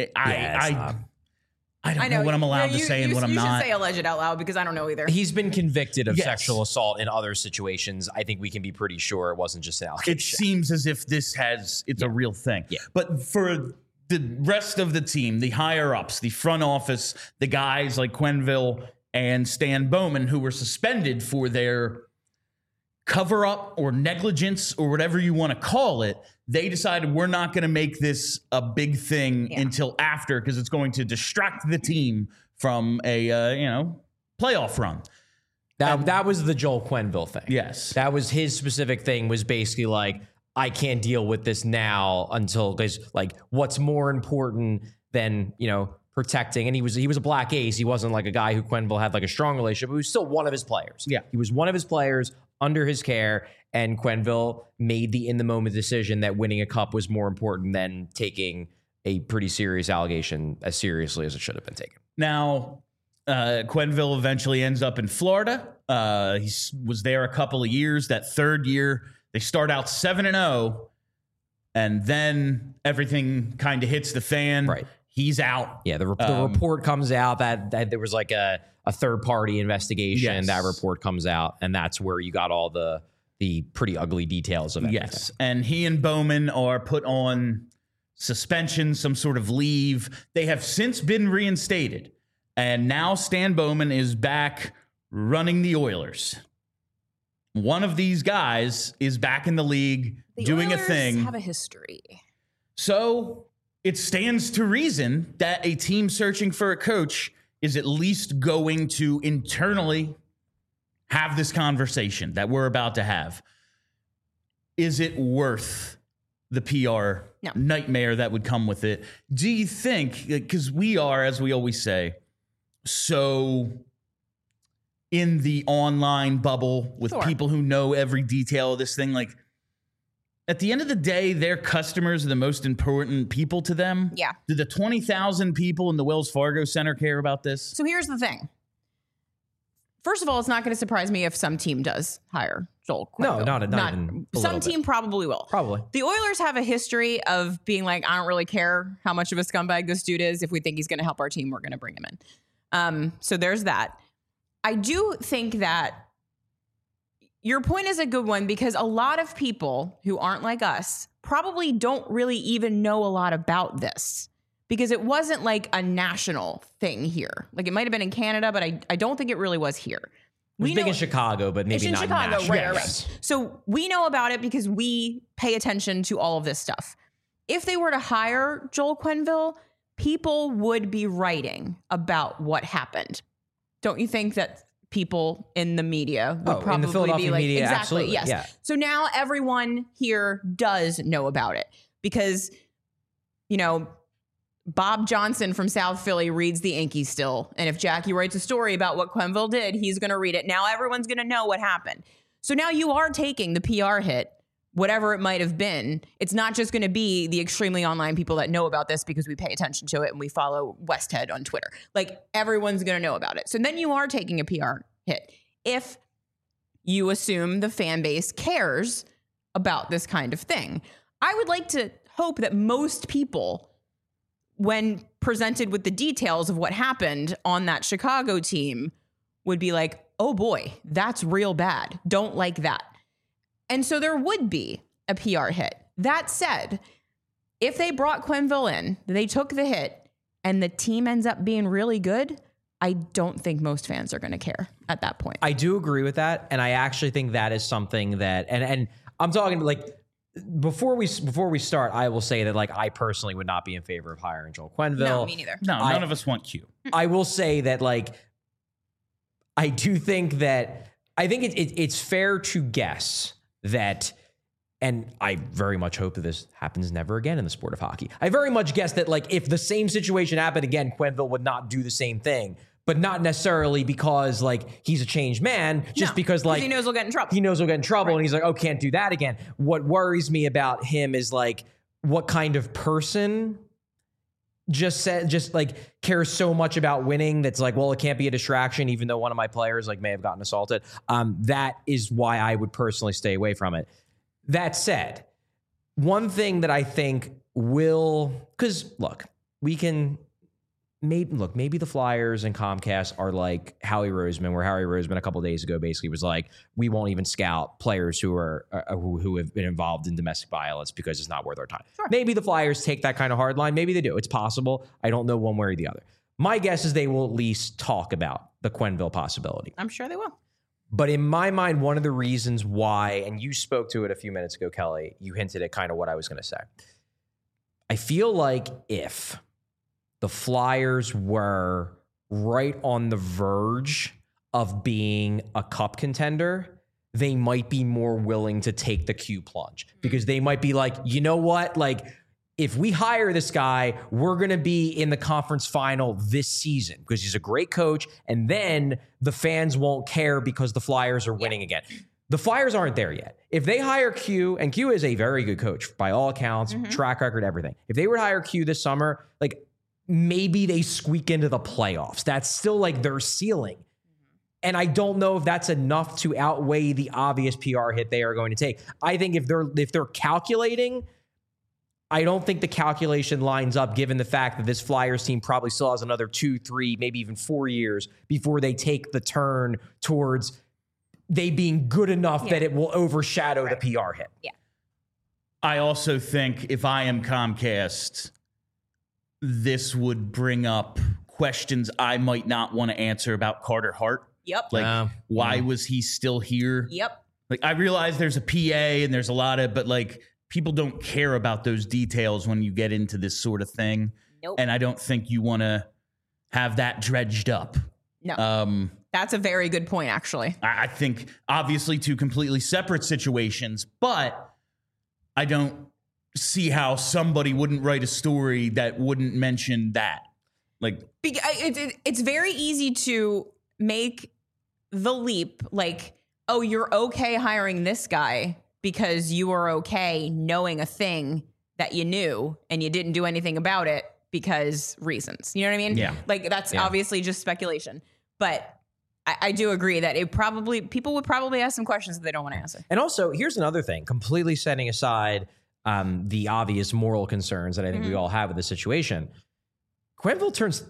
I don't know what I'm allowed to say and what I'm not. You should say alleged out loud, because I don't know either. He's been convicted of sexual assault in other situations. I think we can be pretty sure it wasn't just an allegation. It seems as if it's a real thing. Yeah. But for the rest of the team, the higher ups, the front office, the guys like Quenneville and Stan Bowman, who were suspended for their cover up or negligence or whatever you want to call it. They decided we're not going to make this a big thing until after, because it's going to distract the team from a playoff run. That was the Joel Quenneville thing. Yes. That was his specific thing, was basically like, I can't deal with this now until, because like, what's more important than, protecting. And he was a black ace. He wasn't like a guy who Quenneville had like a strong relationship, but he was still one of his players. Yeah. He was one of his players under his care, and Quenneville made the in the moment decision that winning a cup was more important than taking a pretty serious allegation as seriously as it should have been taken. Now, Quenneville eventually ends up in Florida. He was there a couple of years. That third year, they start out 7-0, and then everything kind of hits the fan. Right. He's out. Yeah, the report comes out that there was like a third-party investigation. Yes. That report comes out, and that's where you got all the pretty ugly details of everything. Yes, and he and Bowman are put on suspension, some sort of leave. They have since been reinstated, and now Stan Bowman is back running the Oilers. One of these guys is back in the league doing Oilers a thing. Have a history. So it stands to reason that a team searching for a coach is at least going to internally have this conversation that we're about to have. Is it worth the PR nightmare that would come with it? Do you think, because we are, as we always say, so in the online bubble with people who know every detail of this thing, like, at the end of the day, their customers are the most important people to them. Yeah. Do the 20,000 people in the Wells Fargo Center care about this? So here's the thing. First of all, it's not going to surprise me if some team does hire Joel Quenneville. No, not even a some little team bit. probably will. Probably. The Oilers have a history of being like, I don't really care how much of a scumbag this dude is. If we think he's going to help our team, we're going to bring him in. So there's that. I do think that your point is a good one, because a lot of people who aren't like us probably don't really even know a lot about this, because it wasn't like a national thing here. Like, it might have been in Canada, but I don't think it really was here. It was big in Chicago, but maybe not Chicago, national. right. So we know about it because we pay attention to all of this stuff. If they were to hire Joel Quenneville, people would be writing about what happened. Don't you think that people in the media would probably in the Philadelphia be like, media, exactly, absolutely, yes. yeah. So now everyone here does know about it, because, Bob Johnson from South Philly reads the Yankees still. And if Jackie writes a story about what Quenneville did, he's going to read it. Now everyone's going to know what happened. So now you are taking the PR hit, whatever it might have been. It's not just going to be the extremely online people that know about this because we pay attention to it and we follow Westhead on Twitter. Like, everyone's going to know about it. So then you are taking a PR hit if you assume the fan base cares about this kind of thing. I would like to hope that most people, when presented with the details of what happened on that Chicago team, would be like, oh boy, that's real bad. Don't like that. And so there would be a PR hit. That said, if they brought Quenneville in, they took the hit, and the team ends up being really good, I don't think most fans are going to care at that point. I do agree with that, and I actually think that is something that, and I'm talking like, before we start, I will say that, like, I personally would not be in favor of hiring Joel Quenneville. No, me neither. No, none of us want Q. I will say that, like, I do think that, I think it's fair to guess that, and I very much hope that this happens never again in the sport of hockey. I very much guess that, like, if the same situation happened again, Quenneville would not do the same thing, but not necessarily because, like, he's a changed man, just because, like, he knows he'll get in trouble. He knows he'll get in trouble, and he's like, oh, can't do that again. What worries me about him is, like, what kind of person just cares so much about winning that's like, well, it can't be a distraction, even though one of my players, like, may have gotten assaulted. That is why I would personally stay away from it. That said, one thing that I think will, because look, we can maybe the Flyers and Comcast are like Howie Roseman, where Howie Roseman a couple of days ago basically was like, we won't even scout players who are who have been involved in domestic violence because it's not worth our time. Sure. Maybe the Flyers take that kind of hard line. Maybe they do. It's possible. I don't know one way or the other. My guess is they will at least talk about the Quenneville possibility. I'm sure they will. But in my mind, one of the reasons why, and you spoke to it a few minutes ago, Kelly, you hinted at kind of what I was going to say. I feel like if the Flyers were right on the verge of being a cup contender, they might be more willing to take the Q plunge, because they might be like, you know what? Like, if we hire this guy, we're going to be in the conference final this season because he's a great coach. And then the fans won't care because the Flyers are winning again. The Flyers aren't there yet. If they hire Q, and Q is a very good coach by all accounts, track record, everything. If they were to hire Q this summer, like, maybe they squeak into the playoffs. That's still like their ceiling. And I don't know if that's enough to outweigh the obvious PR hit they are going to take. I think if they're calculating, I don't think the calculation lines up, given the fact that this Flyers team probably still has another 2, 3, maybe even 4 years before they take the turn towards they being good enough that it will overshadow the PR hit. Yeah. I also think if I am Comcast, this would bring up questions I might not want to answer about Carter Hart. Yep. Like, why was he still here? Yep. Like, I realize there's a PA and there's a lot of, but like, people don't care about those details when you get into this sort of thing. Nope. And I don't think you want to have that dredged up. No. That's a very good point, actually. I think obviously two completely separate situations, but I don't see how somebody wouldn't write a story that wouldn't mention that. Like, it's very easy to make the leap, like, oh, you're okay hiring this guy because you were okay knowing a thing that you knew and you didn't do anything about it because reasons. You know what I mean? Yeah. Like, that's obviously just speculation. But I do agree that people would probably ask some questions that they don't want to answer. And also, here's another thing, completely setting aside the obvious moral concerns that I think we all have with the situation. Quenneville turns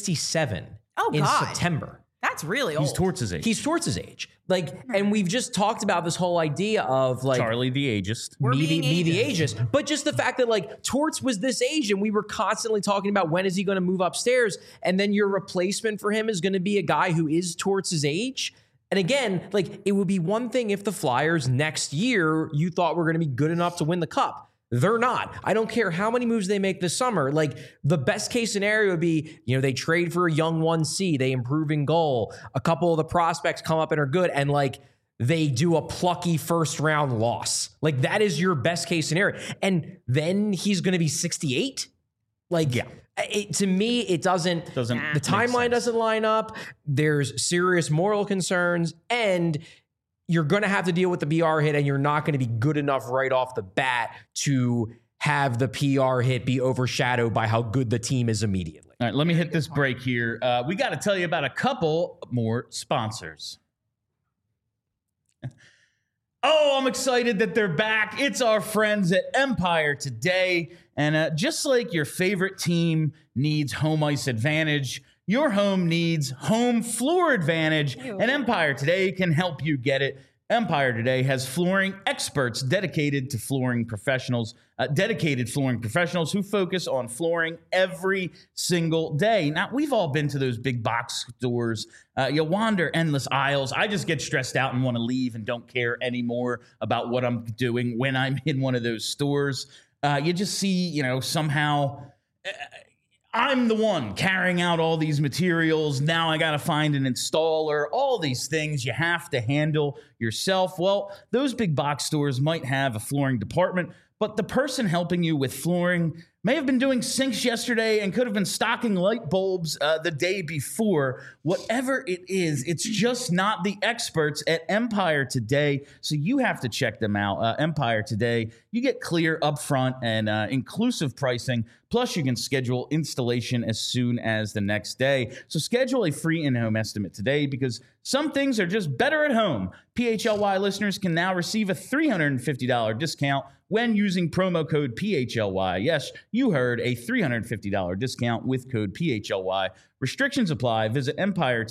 67 in September. That's really old. he's towards his age. He's towards his age. Like, and we've just talked about this whole idea of like Charlie the ageist. me the ageist. But just the fact that like Torts was this age and we were constantly talking about when is he going to move upstairs, and then your replacement for him is going to be a guy who is Torts' age. And again, like, it would be one thing if the Flyers next year you thought were going to be good enough to win the cup. They're not. I don't care how many moves they make this summer. Like, the best case scenario would be, you know, they trade for a young 1C, they improve in goal, a couple of the prospects come up and are good, and like they do a plucky first round loss. Like, that is your best case scenario. And then he's going to be 68. Like, to me, it doesn't the timeline doesn't line up. There's serious moral concerns, and you're going to have to deal with the PR hit, and you're not going to be good enough right off the bat to have the PR hit be overshadowed by how good the team is immediately. All right, let me hit this break here. We got to tell you about a couple more sponsors. Oh, I'm excited that they're back. It's our friends at Empire Today. And just like your favorite team needs home ice advantage, your home needs home floor advantage, and Empire Today can help you get it. Empire Today has flooring experts dedicated flooring professionals who focus on flooring every single day. Now, we've all been to those big box stores. You wander endless aisles. I just get stressed out and want to leave and don't care anymore about what I'm doing when I'm in one of those stores. You just see, you know, somehow I'm the one carrying out all these materials. Now I got to find an installer, all these things you have to handle yourself. Well, those big box stores might have a flooring department, but the person helping you with flooring may have been doing sinks yesterday and could have been stocking light bulbs the day before. Whatever it is, it's just not the experts at Empire Today, so you have to check them out. Empire Today, you get clear, upfront, and inclusive pricing, plus you can schedule installation as soon as the next day. So schedule a free in-home estimate today, because some things are just better at home. PHLY listeners can now receive a $350 discount when using promo code PHLY. Yes, you heard, a $350 discount with code PHLY. Restrictions apply. Visit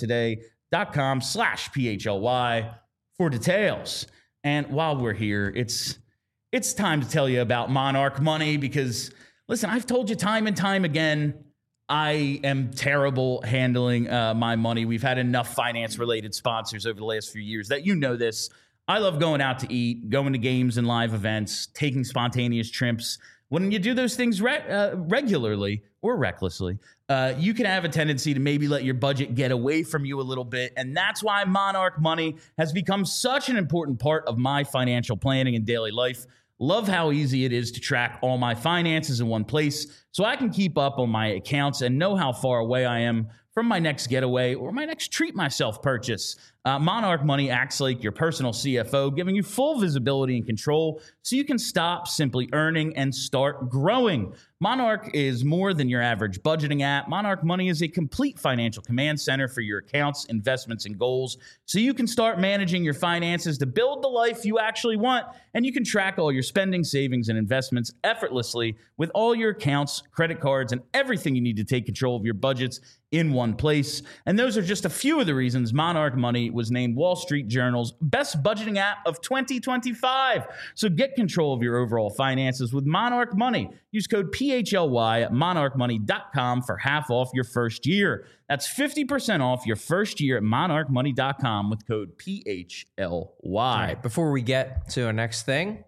empiretoday.com/PHLY for details. And while we're here, it's time to tell you about Monarch Money, because, listen, I've told you time and time again, I am terrible handling my money. We've had enough finance-related sponsors over the last few years that you know this. I love going out to eat, going to games and live events, taking spontaneous trips. When you do those things regularly or recklessly, you can have a tendency to maybe let your budget get away from you a little bit. And that's why Monarch Money has become such an important part of my financial planning and daily life. Love how easy it is to track all my finances in one place so I can keep up on my accounts and know how far away I am from my next getaway or my next treat myself purchase. Monarch Money acts like your personal CFO, giving you full visibility and control so you can stop simply earning and start growing. Monarch is more than your average budgeting app. Monarch Money is a complete financial command center for your accounts, investments, and goals so you can start managing your finances to build the life you actually want, and you can track all your spending, savings, and investments effortlessly with all your accounts, credit cards, and everything you need to take control of your budgets in one place. And those are just a few of the reasons Monarch Money was named Wall Street Journal's best budgeting app of 2025. So get control of your overall finances with Monarch Money. Use code PHLY at monarchmoney.com for half off your first year. That's 50% off your first year at monarchmoney.com with code PHLY. All right, before we get to our next thing,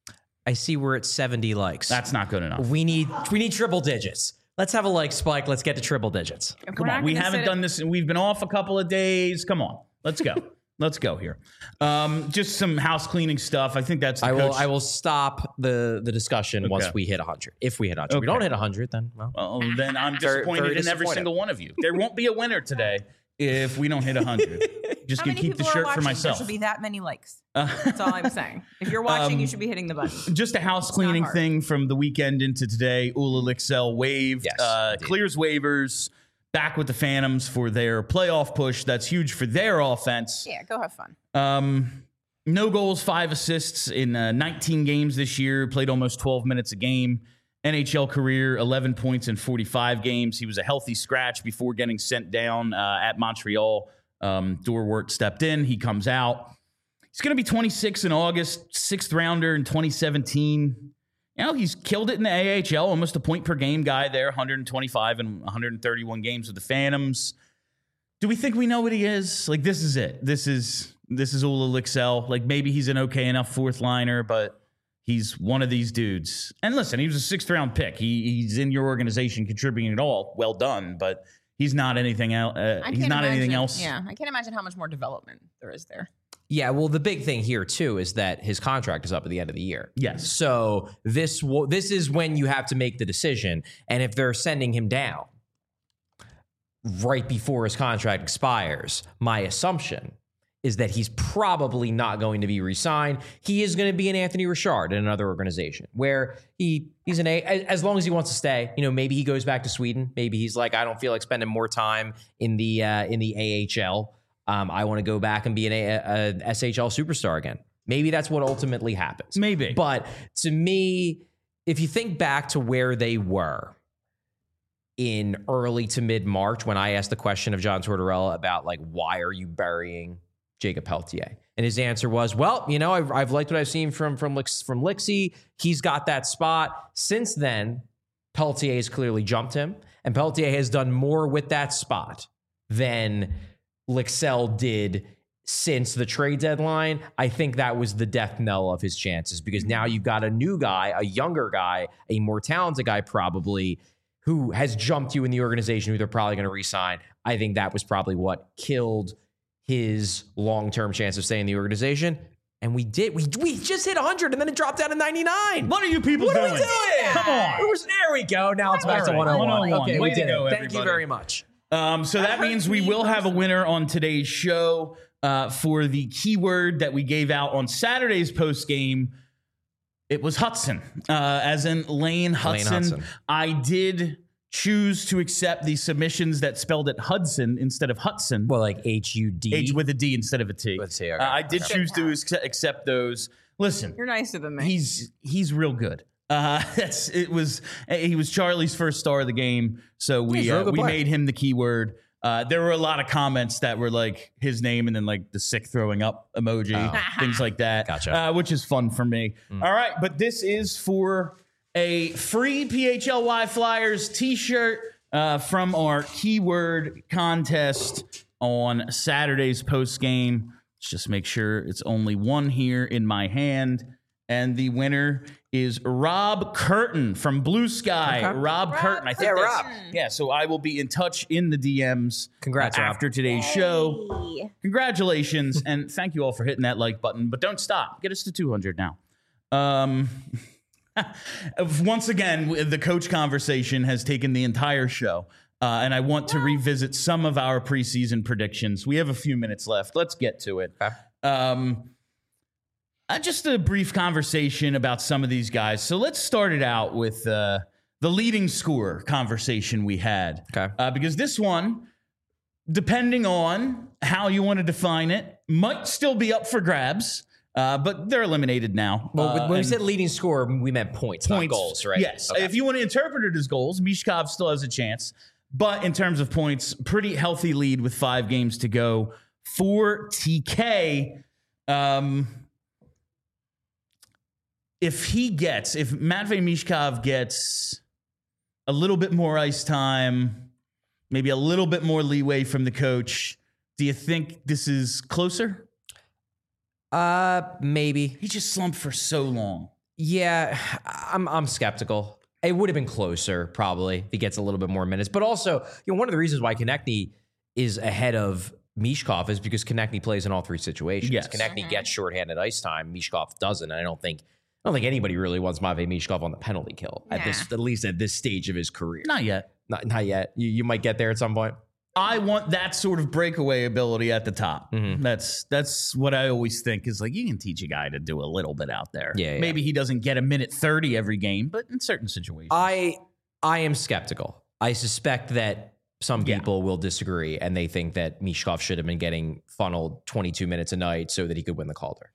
I see we're at 70 likes. That's not good enough. We need triple digits. Let's have a like spike. Let's get to triple digits. Come on. We haven't done this. We've been off a couple of days. Come on. Let's go. Let's go here. Just some house cleaning stuff. I think that's the coach. I will stop the discussion once we hit 100. If we hit 100. If we don't hit 100, then then I'm disappointed in every single one of you. There won't be a winner today if we don't hit 100. Just gonna keep the shirt for myself. There should be that many likes. That's all I'm saying. If you're watching, you should be hitting the button. Just a house cleaning thing from the weekend into today. Ula Lixell waived, clears waivers, back with the Phantoms for their playoff push. That's huge for their offense. Yeah, go have fun. No goals, 5 assists in 19 games this year. Played almost 12 minutes a game. NHL career, 11 points in 45 games. He was a healthy scratch before getting sent down at Montreal. Dorwart stepped in. He comes out. He's going to be 26 in August, 6th rounder in 2017. You know, he's killed it in the AHL, almost a point per game guy there, 125 and 131 games with the Phantoms. Do we think we know what he is? Like, this is it. This is Ula Lixell. Like, maybe he's an okay enough fourth liner, but he's one of these dudes. And listen, he was a 6th round pick. He's in your organization contributing at all. Well done, but he's not anything else. Anything else. Yeah, I can't imagine how much more development there is there. Yeah, well, the big thing here, too, is that his contract is up at the end of the year. Yes. So this is when you have to make the decision. And if they're sending him down right before his contract expires, my assumption is that he's probably not going to be re-signed. He is going to be an Anthony Richard in another organization where he's as long as he wants to stay. You know, maybe he goes back to Sweden. Maybe he's like, I don't feel like spending more time in the AHL. I want to go back and be an SHL superstar again. Maybe that's what ultimately happens. Maybe. But to me, if you think back to where they were in early to mid-March when I asked the question of John Tortorella about, like, why are you burying Jacob Pelletier? And his answer was, well, you know, I've liked what I've seen from Lixie. He's got that spot. Since then, Pelletier has clearly jumped him, and Pelletier has done more with that spot than Lixell did since the trade deadline. I think that was the death knell of his chances because now you've got a new guy, a younger guy, a more talented guy probably, who has jumped you in the organization who they're probably going to re-sign. I think that was probably what killed his long-term chance of staying in the organization. And we did. We just hit 100 and then it dropped down to 99. What are you people doing? What are we doing? Come on. There we go. Now it's back to 101. Okay, we did it. Thank you very much. So that means we will have a winner on today's show for the keyword that we gave out on Saturday's post game. It was Hudson, as in Lane Hudson. I did choose to accept the submissions that spelled it Hudson instead of Hudson. Well, like H-U-D? H with a D instead of a T. With a T, okay. I choose to accept those. Listen. You're nicer than me. He's real good. He was Charlie's first star of the game, so we made him the keyword. There were a lot of comments that were like his name and then like the sick throwing up emoji, things like that. Gotcha. Which is fun for me. All right, but this is for a free PHLY Flyers t-shirt. from our keyword contest on Saturday's post game. Let's just make sure it's only one here in my hand. And the winner is Rob Curtin from Blue Sky. Okay. Rob Curtin. I think Rob. Yeah, so I will be in touch in the DMs. Congrats, Rob. after today's show. Congratulations, and thank you all for hitting that like button. But don't stop. Get us to 200 now. Once again, the coach conversation has taken the entire show. And I want to revisit some of our preseason predictions. We have a few minutes left. Let's get to it. Okay. Just a brief conversation about some of these guys. So let's start it out with the leading scorer conversation we had. Okay. Because this one, depending on how you want to define it, might still be up for grabs. But they're eliminated now. Well, when we said leading scorer, we meant points, not goals, right? Yes. Okay. If you want to interpret it as goals, Mishkov still has a chance. But in terms of points, pretty healthy lead with 5 games to go for TK. If Matvei Mishkov gets a little bit more ice time, maybe a little bit more leeway from the coach, do you think this is closer? Maybe. He just slumped for so long. Yeah, I'm skeptical. It would have been closer, probably, if he gets a little bit more minutes. But also, one of the reasons why Konechny is ahead of Mishkov is because Konechny plays in all 3 situations. Yes. Konechny gets shorthanded ice time. Mishkov doesn't. And I don't think anybody really wants Matvei Mishkov on the penalty kill at least at this stage of his career. Not yet. Not yet. You might get there at some point. I want that sort of breakaway ability at the top. Mm-hmm. That's what I always think is like, you can teach a guy to do a little bit out there. Yeah. Maybe he doesn't get a minute 30 every game, but in certain situations. I am skeptical. I suspect that some people will disagree and they think that Mishkov should have been getting funneled 22 minutes a night so that he could win the Calder.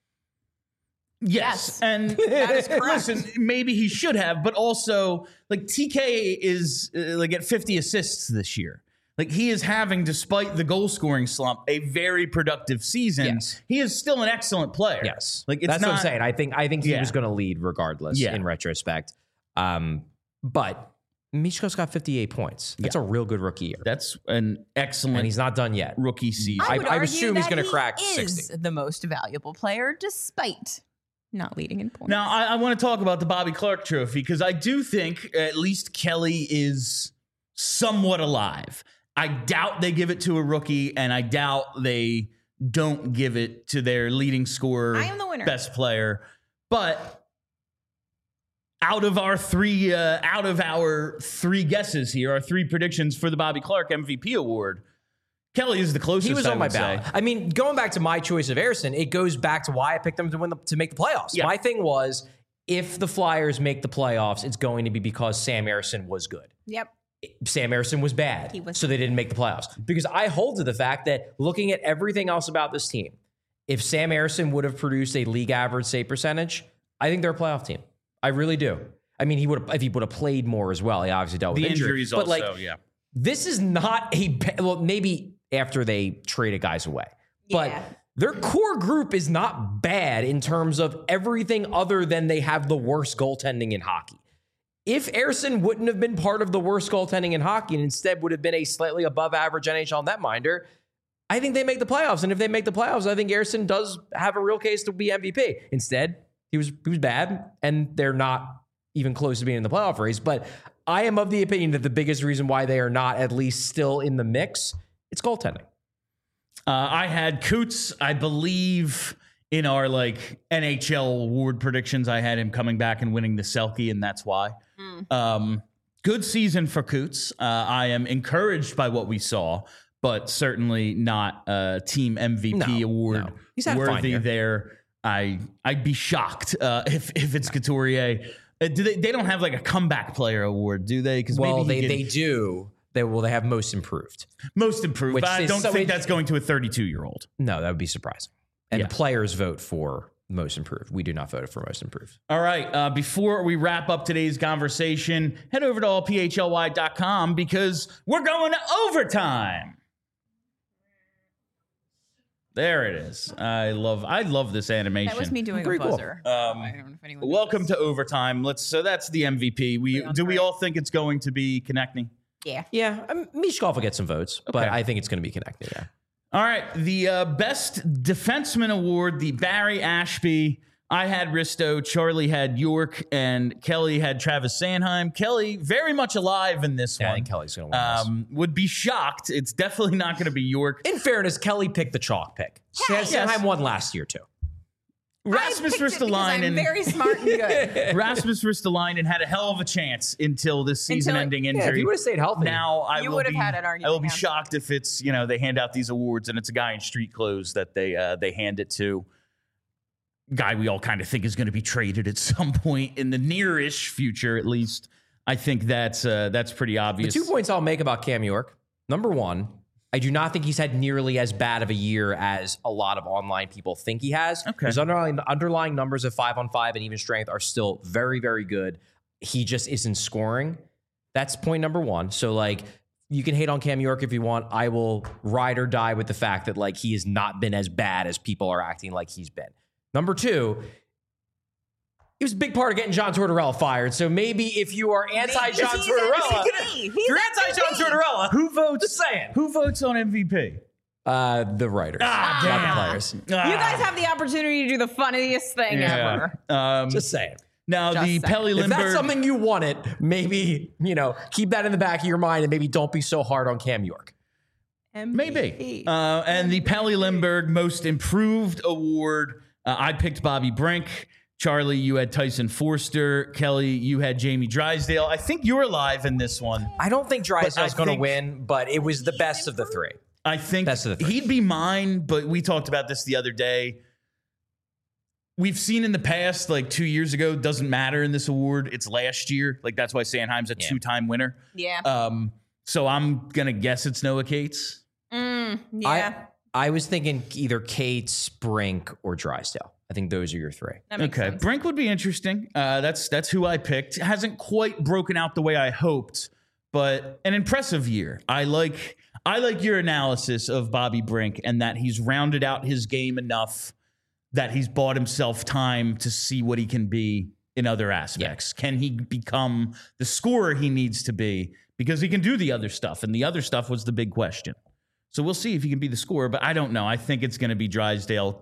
Yes. And That is correct. listen, maybe he should have, but also like TK is like at 50 assists this year. Like he is having, despite the goal scoring slump, a very productive season. Yes. He is still an excellent player. Yes. Like That's what I'm saying. I think he was going to lead regardless in retrospect. But Mishkov's got 58 points. That's a real good rookie year. That's an excellent And he's not done yet. rookie season. I would I argue assume he's that gonna crack he is 60. the most valuable player, despite not leading in points. Now, I want to talk about the Bobby Clark Trophy because I do think at least Kelly is somewhat alive. I doubt they give it to a rookie, and I doubt they don't give it to their leading scorer, I am the winner. best player. But out of our three guesses here, our 3 predictions for the Bobby Clark MVP award, Kelly is the closest. He was I on my would say. ballot. I mean, going back to my choice of Ersson, it goes back to why I picked them to make the playoffs. Yeah. My thing was, if the Flyers make the playoffs, it's going to be because Sam Ersson was good. Yep. Sam Ersson was bad, so they didn't make the playoffs. Because I hold to the fact that looking at everything else about this team, if Sam Ersson would have produced a league average save percentage, I think they're a playoff team. I really do. I mean, if he would have played more as well. He obviously dealt with The injury. injuries but also, this is not maybe after they traded guys away, but their core group is not bad in terms of everything other than they have the worst goaltending in hockey. If Ersson wouldn't have been part of the worst goaltending in hockey and instead would have been a slightly above average NHL netminder, I think they make the playoffs. And if they make the playoffs, I think Ersson does have a real case to be MVP. Instead, he was bad, and they're not even close to being in the playoff race. But I am of the opinion that the biggest reason why they are not at least still in the mix, it's goaltending. I had Coots, I believe, in our NHL award predictions. I had him coming back and winning the Selke, and that's why. Good season for Coots. I am encouraged by what we saw, but certainly not a team MVP award He's had a fine worthy year. there. I'd be shocked if it's Couturier. They don't have a comeback player award, do they? Because They do. They have most improved. most improved. Which But I is don't so think that's going to a 32-year-old. No, that would be surprising. And Yeah. players vote for most improved. We do not vote for most improved. All right. Before we wrap up today's conversation, head over to allphly.com because we're going to overtime. There it is. I love this animation. That was me doing Pretty a cool. buzzer. I don't know if anyone Welcome knows. to overtime. So that's the MVP. Do we all think it's going to be Konechny? Yeah. Yeah, Michkov will get some votes, but I think it's going to be connected. Yeah. All right, the best defenseman award, the Barry Ashby. I had Risto, Charlie had York, and Kelly had Travis Sanheim. Kelly very much alive in this one. I think Kelly's going to win this. Would be shocked. It's definitely not going to be York. In fairness, Kelly picked the chalk pick. Sanheim won last year, too. Rasmus Ristolainen. I'm very smart and good. Rasmus Ristolainen had a hell of a chance until this season-ending injury. Yeah, if he would have stayed healthy. Now I You will would have be, had an argument, I will be yeah. shocked if it's they hand out these awards and it's a guy in street clothes that they hand it to. Guy we all kind of think is going to be traded at some point in the near-ish future, at least. I think that's pretty obvious. The 2 points I'll make about Cam York. Number one, I do not think he's had nearly as bad of a year as a lot of online people think he has. Okay. His underlying numbers of 5-on-5 and even strength are still very, very good. He just isn't scoring. That's point number one. So, like, you can hate on Cam York if you want. I will ride or die with the fact that, like, he has not been as bad as people are acting like he's been. Number two, he was a big part of getting John Tortorella fired. So maybe if you are anti-John Tortorella, you're anti-John Tortorella. Who votes? Just saying. Who votes on MVP? The writers, not the players. You guys have the opportunity to do the funniest thing ever. Just saying. Now, Just the saying. Pelly If that's Lindbergh. something you wanted, maybe, keep that in the back of your mind and maybe don't be so hard on Cam York. Maybe. And the Pelly Lindbergh Most Improved Award, I picked Bobby Brink. Charlie, you had Tyson Forster. Kelly, you had Jamie Drysdale. I think you're alive in this one. I don't think Drysdale's going to think- win, but it was the best of the three. I think Best of the three. he'd be mine, but we talked about this the other day. We've seen in the past, like 2 years ago, doesn't matter in this award. It's last year. Like, that's why Sanheim's a two-time winner. Yeah. So I'm going to guess it's Noah Cates. Yeah. I was thinking either Cates, Brink, or Drysdale. I think those are your three. That makes sense. Brink would be interesting. That's who I picked. Hasn't quite broken out the way I hoped, but an impressive year. I like your analysis of Bobby Brink and that he's rounded out his game enough that he's bought himself time to see what he can be in other aspects. Yeah. Can he become the scorer he needs to be? Because he can do the other stuff, and the other stuff was the big question. So we'll see if he can be the scorer, but I don't know. I think it's going to be Drysdale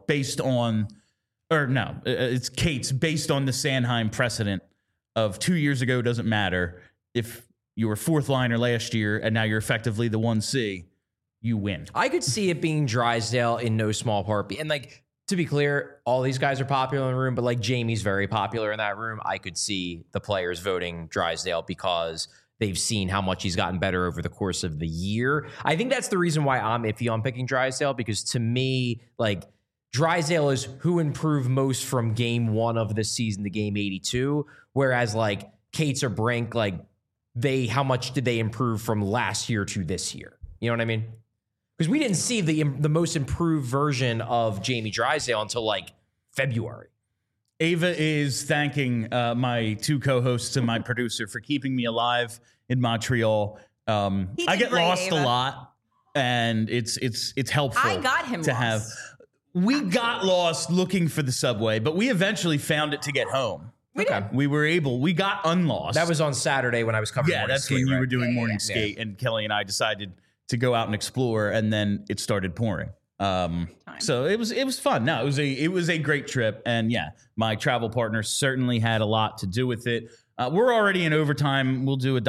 it's Cates based on the Sanheim precedent of 2 years ago. Doesn't matter if you were fourth liner last year and now you're effectively the 1C, you win. I could see it being Drysdale in no small part. And like, to be clear, all these guys are popular in the room, but like Jamie's very popular in that room. I could see the players voting Drysdale because they've seen how much he's gotten better over the course of the year. I think that's the reason why I'm iffy on picking Drysdale, because to me, like, Drysdale is who improved most from game one of the season to game 82, whereas like Cates or Brink, like how much did they improve from last year to this year? You know what I mean? Because we didn't see the most improved version of Jamie Drysdale until like February. Ava is thanking my two co-hosts and my producer for keeping me alive in Montreal. I get great, lost Ava. a lot, and it's helpful. I got him to lost. have. We got lost looking for the subway, but we eventually found it to get home. We got unlost. That was on Saturday when I was covering. Yeah, morning that's skate, when you right? were doing morning skate, and Kelly and I decided to go out and explore, and then it started pouring. So it was fun. No, it was a great trip, and yeah, my travel partner certainly had a lot to do with it. We're already in overtime. We'll do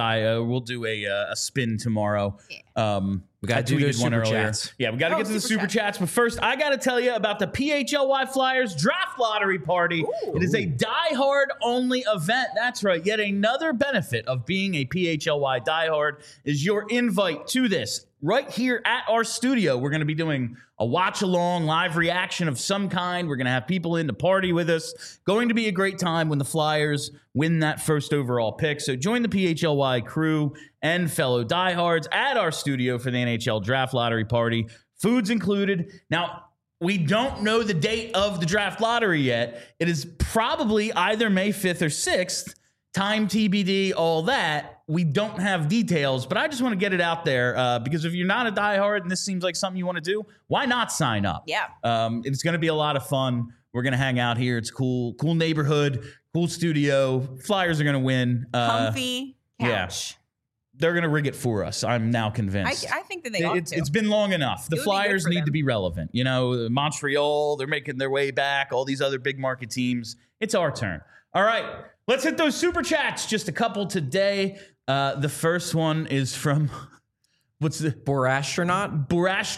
a spin tomorrow. We got to do those super chats. Yeah, we got to get to the super chats. But first, I got to tell you about the PHLY Flyers Draft Lottery Party. Ooh. It is a diehard only event. That's right. Yet another benefit of being a PHLY diehard is your invite to this. Right here at our studio, we're going to be doing a watch-along live reaction of some kind. We're going to have people in to party with us. Going to be a great time when the Flyers win that first overall pick. So join the PHLY crew and fellow diehards at our studio for the NHL Draft Lottery Party. Food's included. Now, we don't know the date of the draft lottery yet. It is probably either May 5th or 6th. Time TBD, all that. We don't have details, but I just want to get it out there because if you're not a diehard and this seems like something you want to do, why not sign up? Yeah. It's going to be a lot of fun. We're going to hang out here. It's cool neighborhood, cool studio. Flyers are going to win. Comfy couch. Yeah. they're going to rig it for us. I'm now convinced. I think that they ought to. It's been long enough. The Flyers need to be relevant. You know, Montreal, they're making their way back. All these other big market teams. It's our turn. All right, let's hit those super chats. Just a couple today. The first one is from... What's the Borastronaut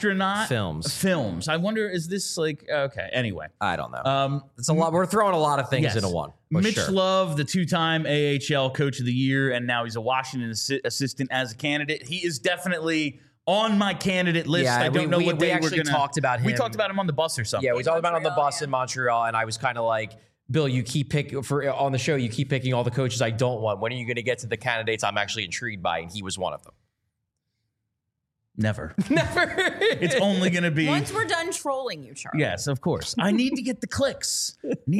films? I wonder, is this like okay? Anyway, I don't know. It's a lot. We're throwing a lot of things into one. Mitch Love, the 2-time AHL Coach of the Year, and now he's a Washington assistant as a candidate. He is definitely on my candidate list. Yeah, I don't know what we actually talked about him. We talked about him on the bus or something. Yeah, we talked about him on the bus in Montreal, and I was kind of like, Bill, you keep picking on the show. You keep picking all the coaches I don't want. When are you going to get to the candidates I'm actually intrigued by? And he was one of them. Never. It's only going to be... Once we're done trolling you, Charlie. Yes, of course. I need to get the clicks.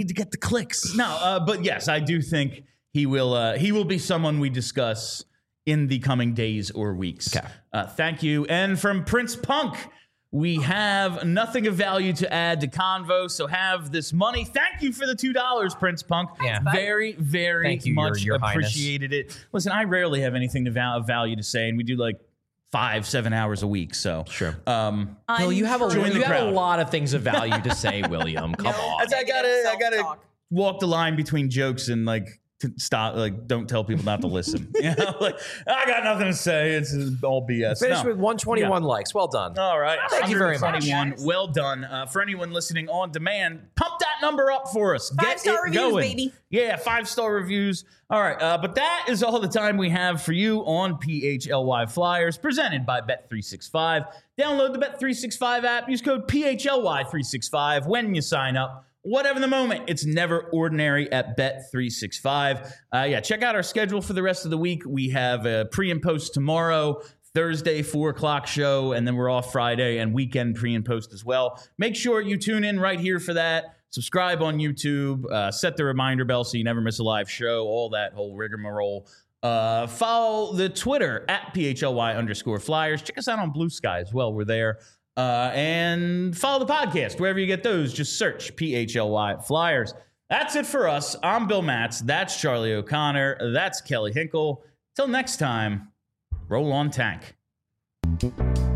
No, but yes, I do think he will be someone we discuss in the coming days or weeks. Okay. Thank you. And from Prince Punk, we have nothing of value to add to Convo, so have this money. Thank you for the $2, Prince Punk. Yeah. Very, very Thank you, much Your appreciated it. Listen, I rarely have anything of value to say, and we do like 5-7 hours a week. So sure. Bill, you have a lot of things of value to say, William. Come on. I gotta walk the line between jokes and stop. Don't tell people not to listen. You know, I got nothing to say. It's all BS. Finished with 121 likes. Well done. All right. Thank you very much. Well done. For anyone listening on demand, pump that number up for us. 5-star reviews, going. baby. Yeah, 5-star reviews. All right. But that is all the time we have for you on PHLY Flyers, presented by Bet365. Download the Bet365 app. Use code PHLY365 when you sign up. Whatever the moment, it's never ordinary at Bet365. Check out our schedule for the rest of the week. We have a pre and post tomorrow, Thursday, 4 o'clock show, and then we're off Friday and weekend pre and post as well. Make sure you tune in right here for that. Subscribe on YouTube. Set the reminder bell so you never miss a live show, all that whole rigmarole. Follow the Twitter at PHLY_Flyers. Check us out on Blue Sky as well. We're there. And follow the podcast wherever you get those. Just search PHLY Flyers. That's it for us. I'm Bill Matz. That's Charlie O'Connor. That's Kelly Hinkle. Till next time, roll on tank.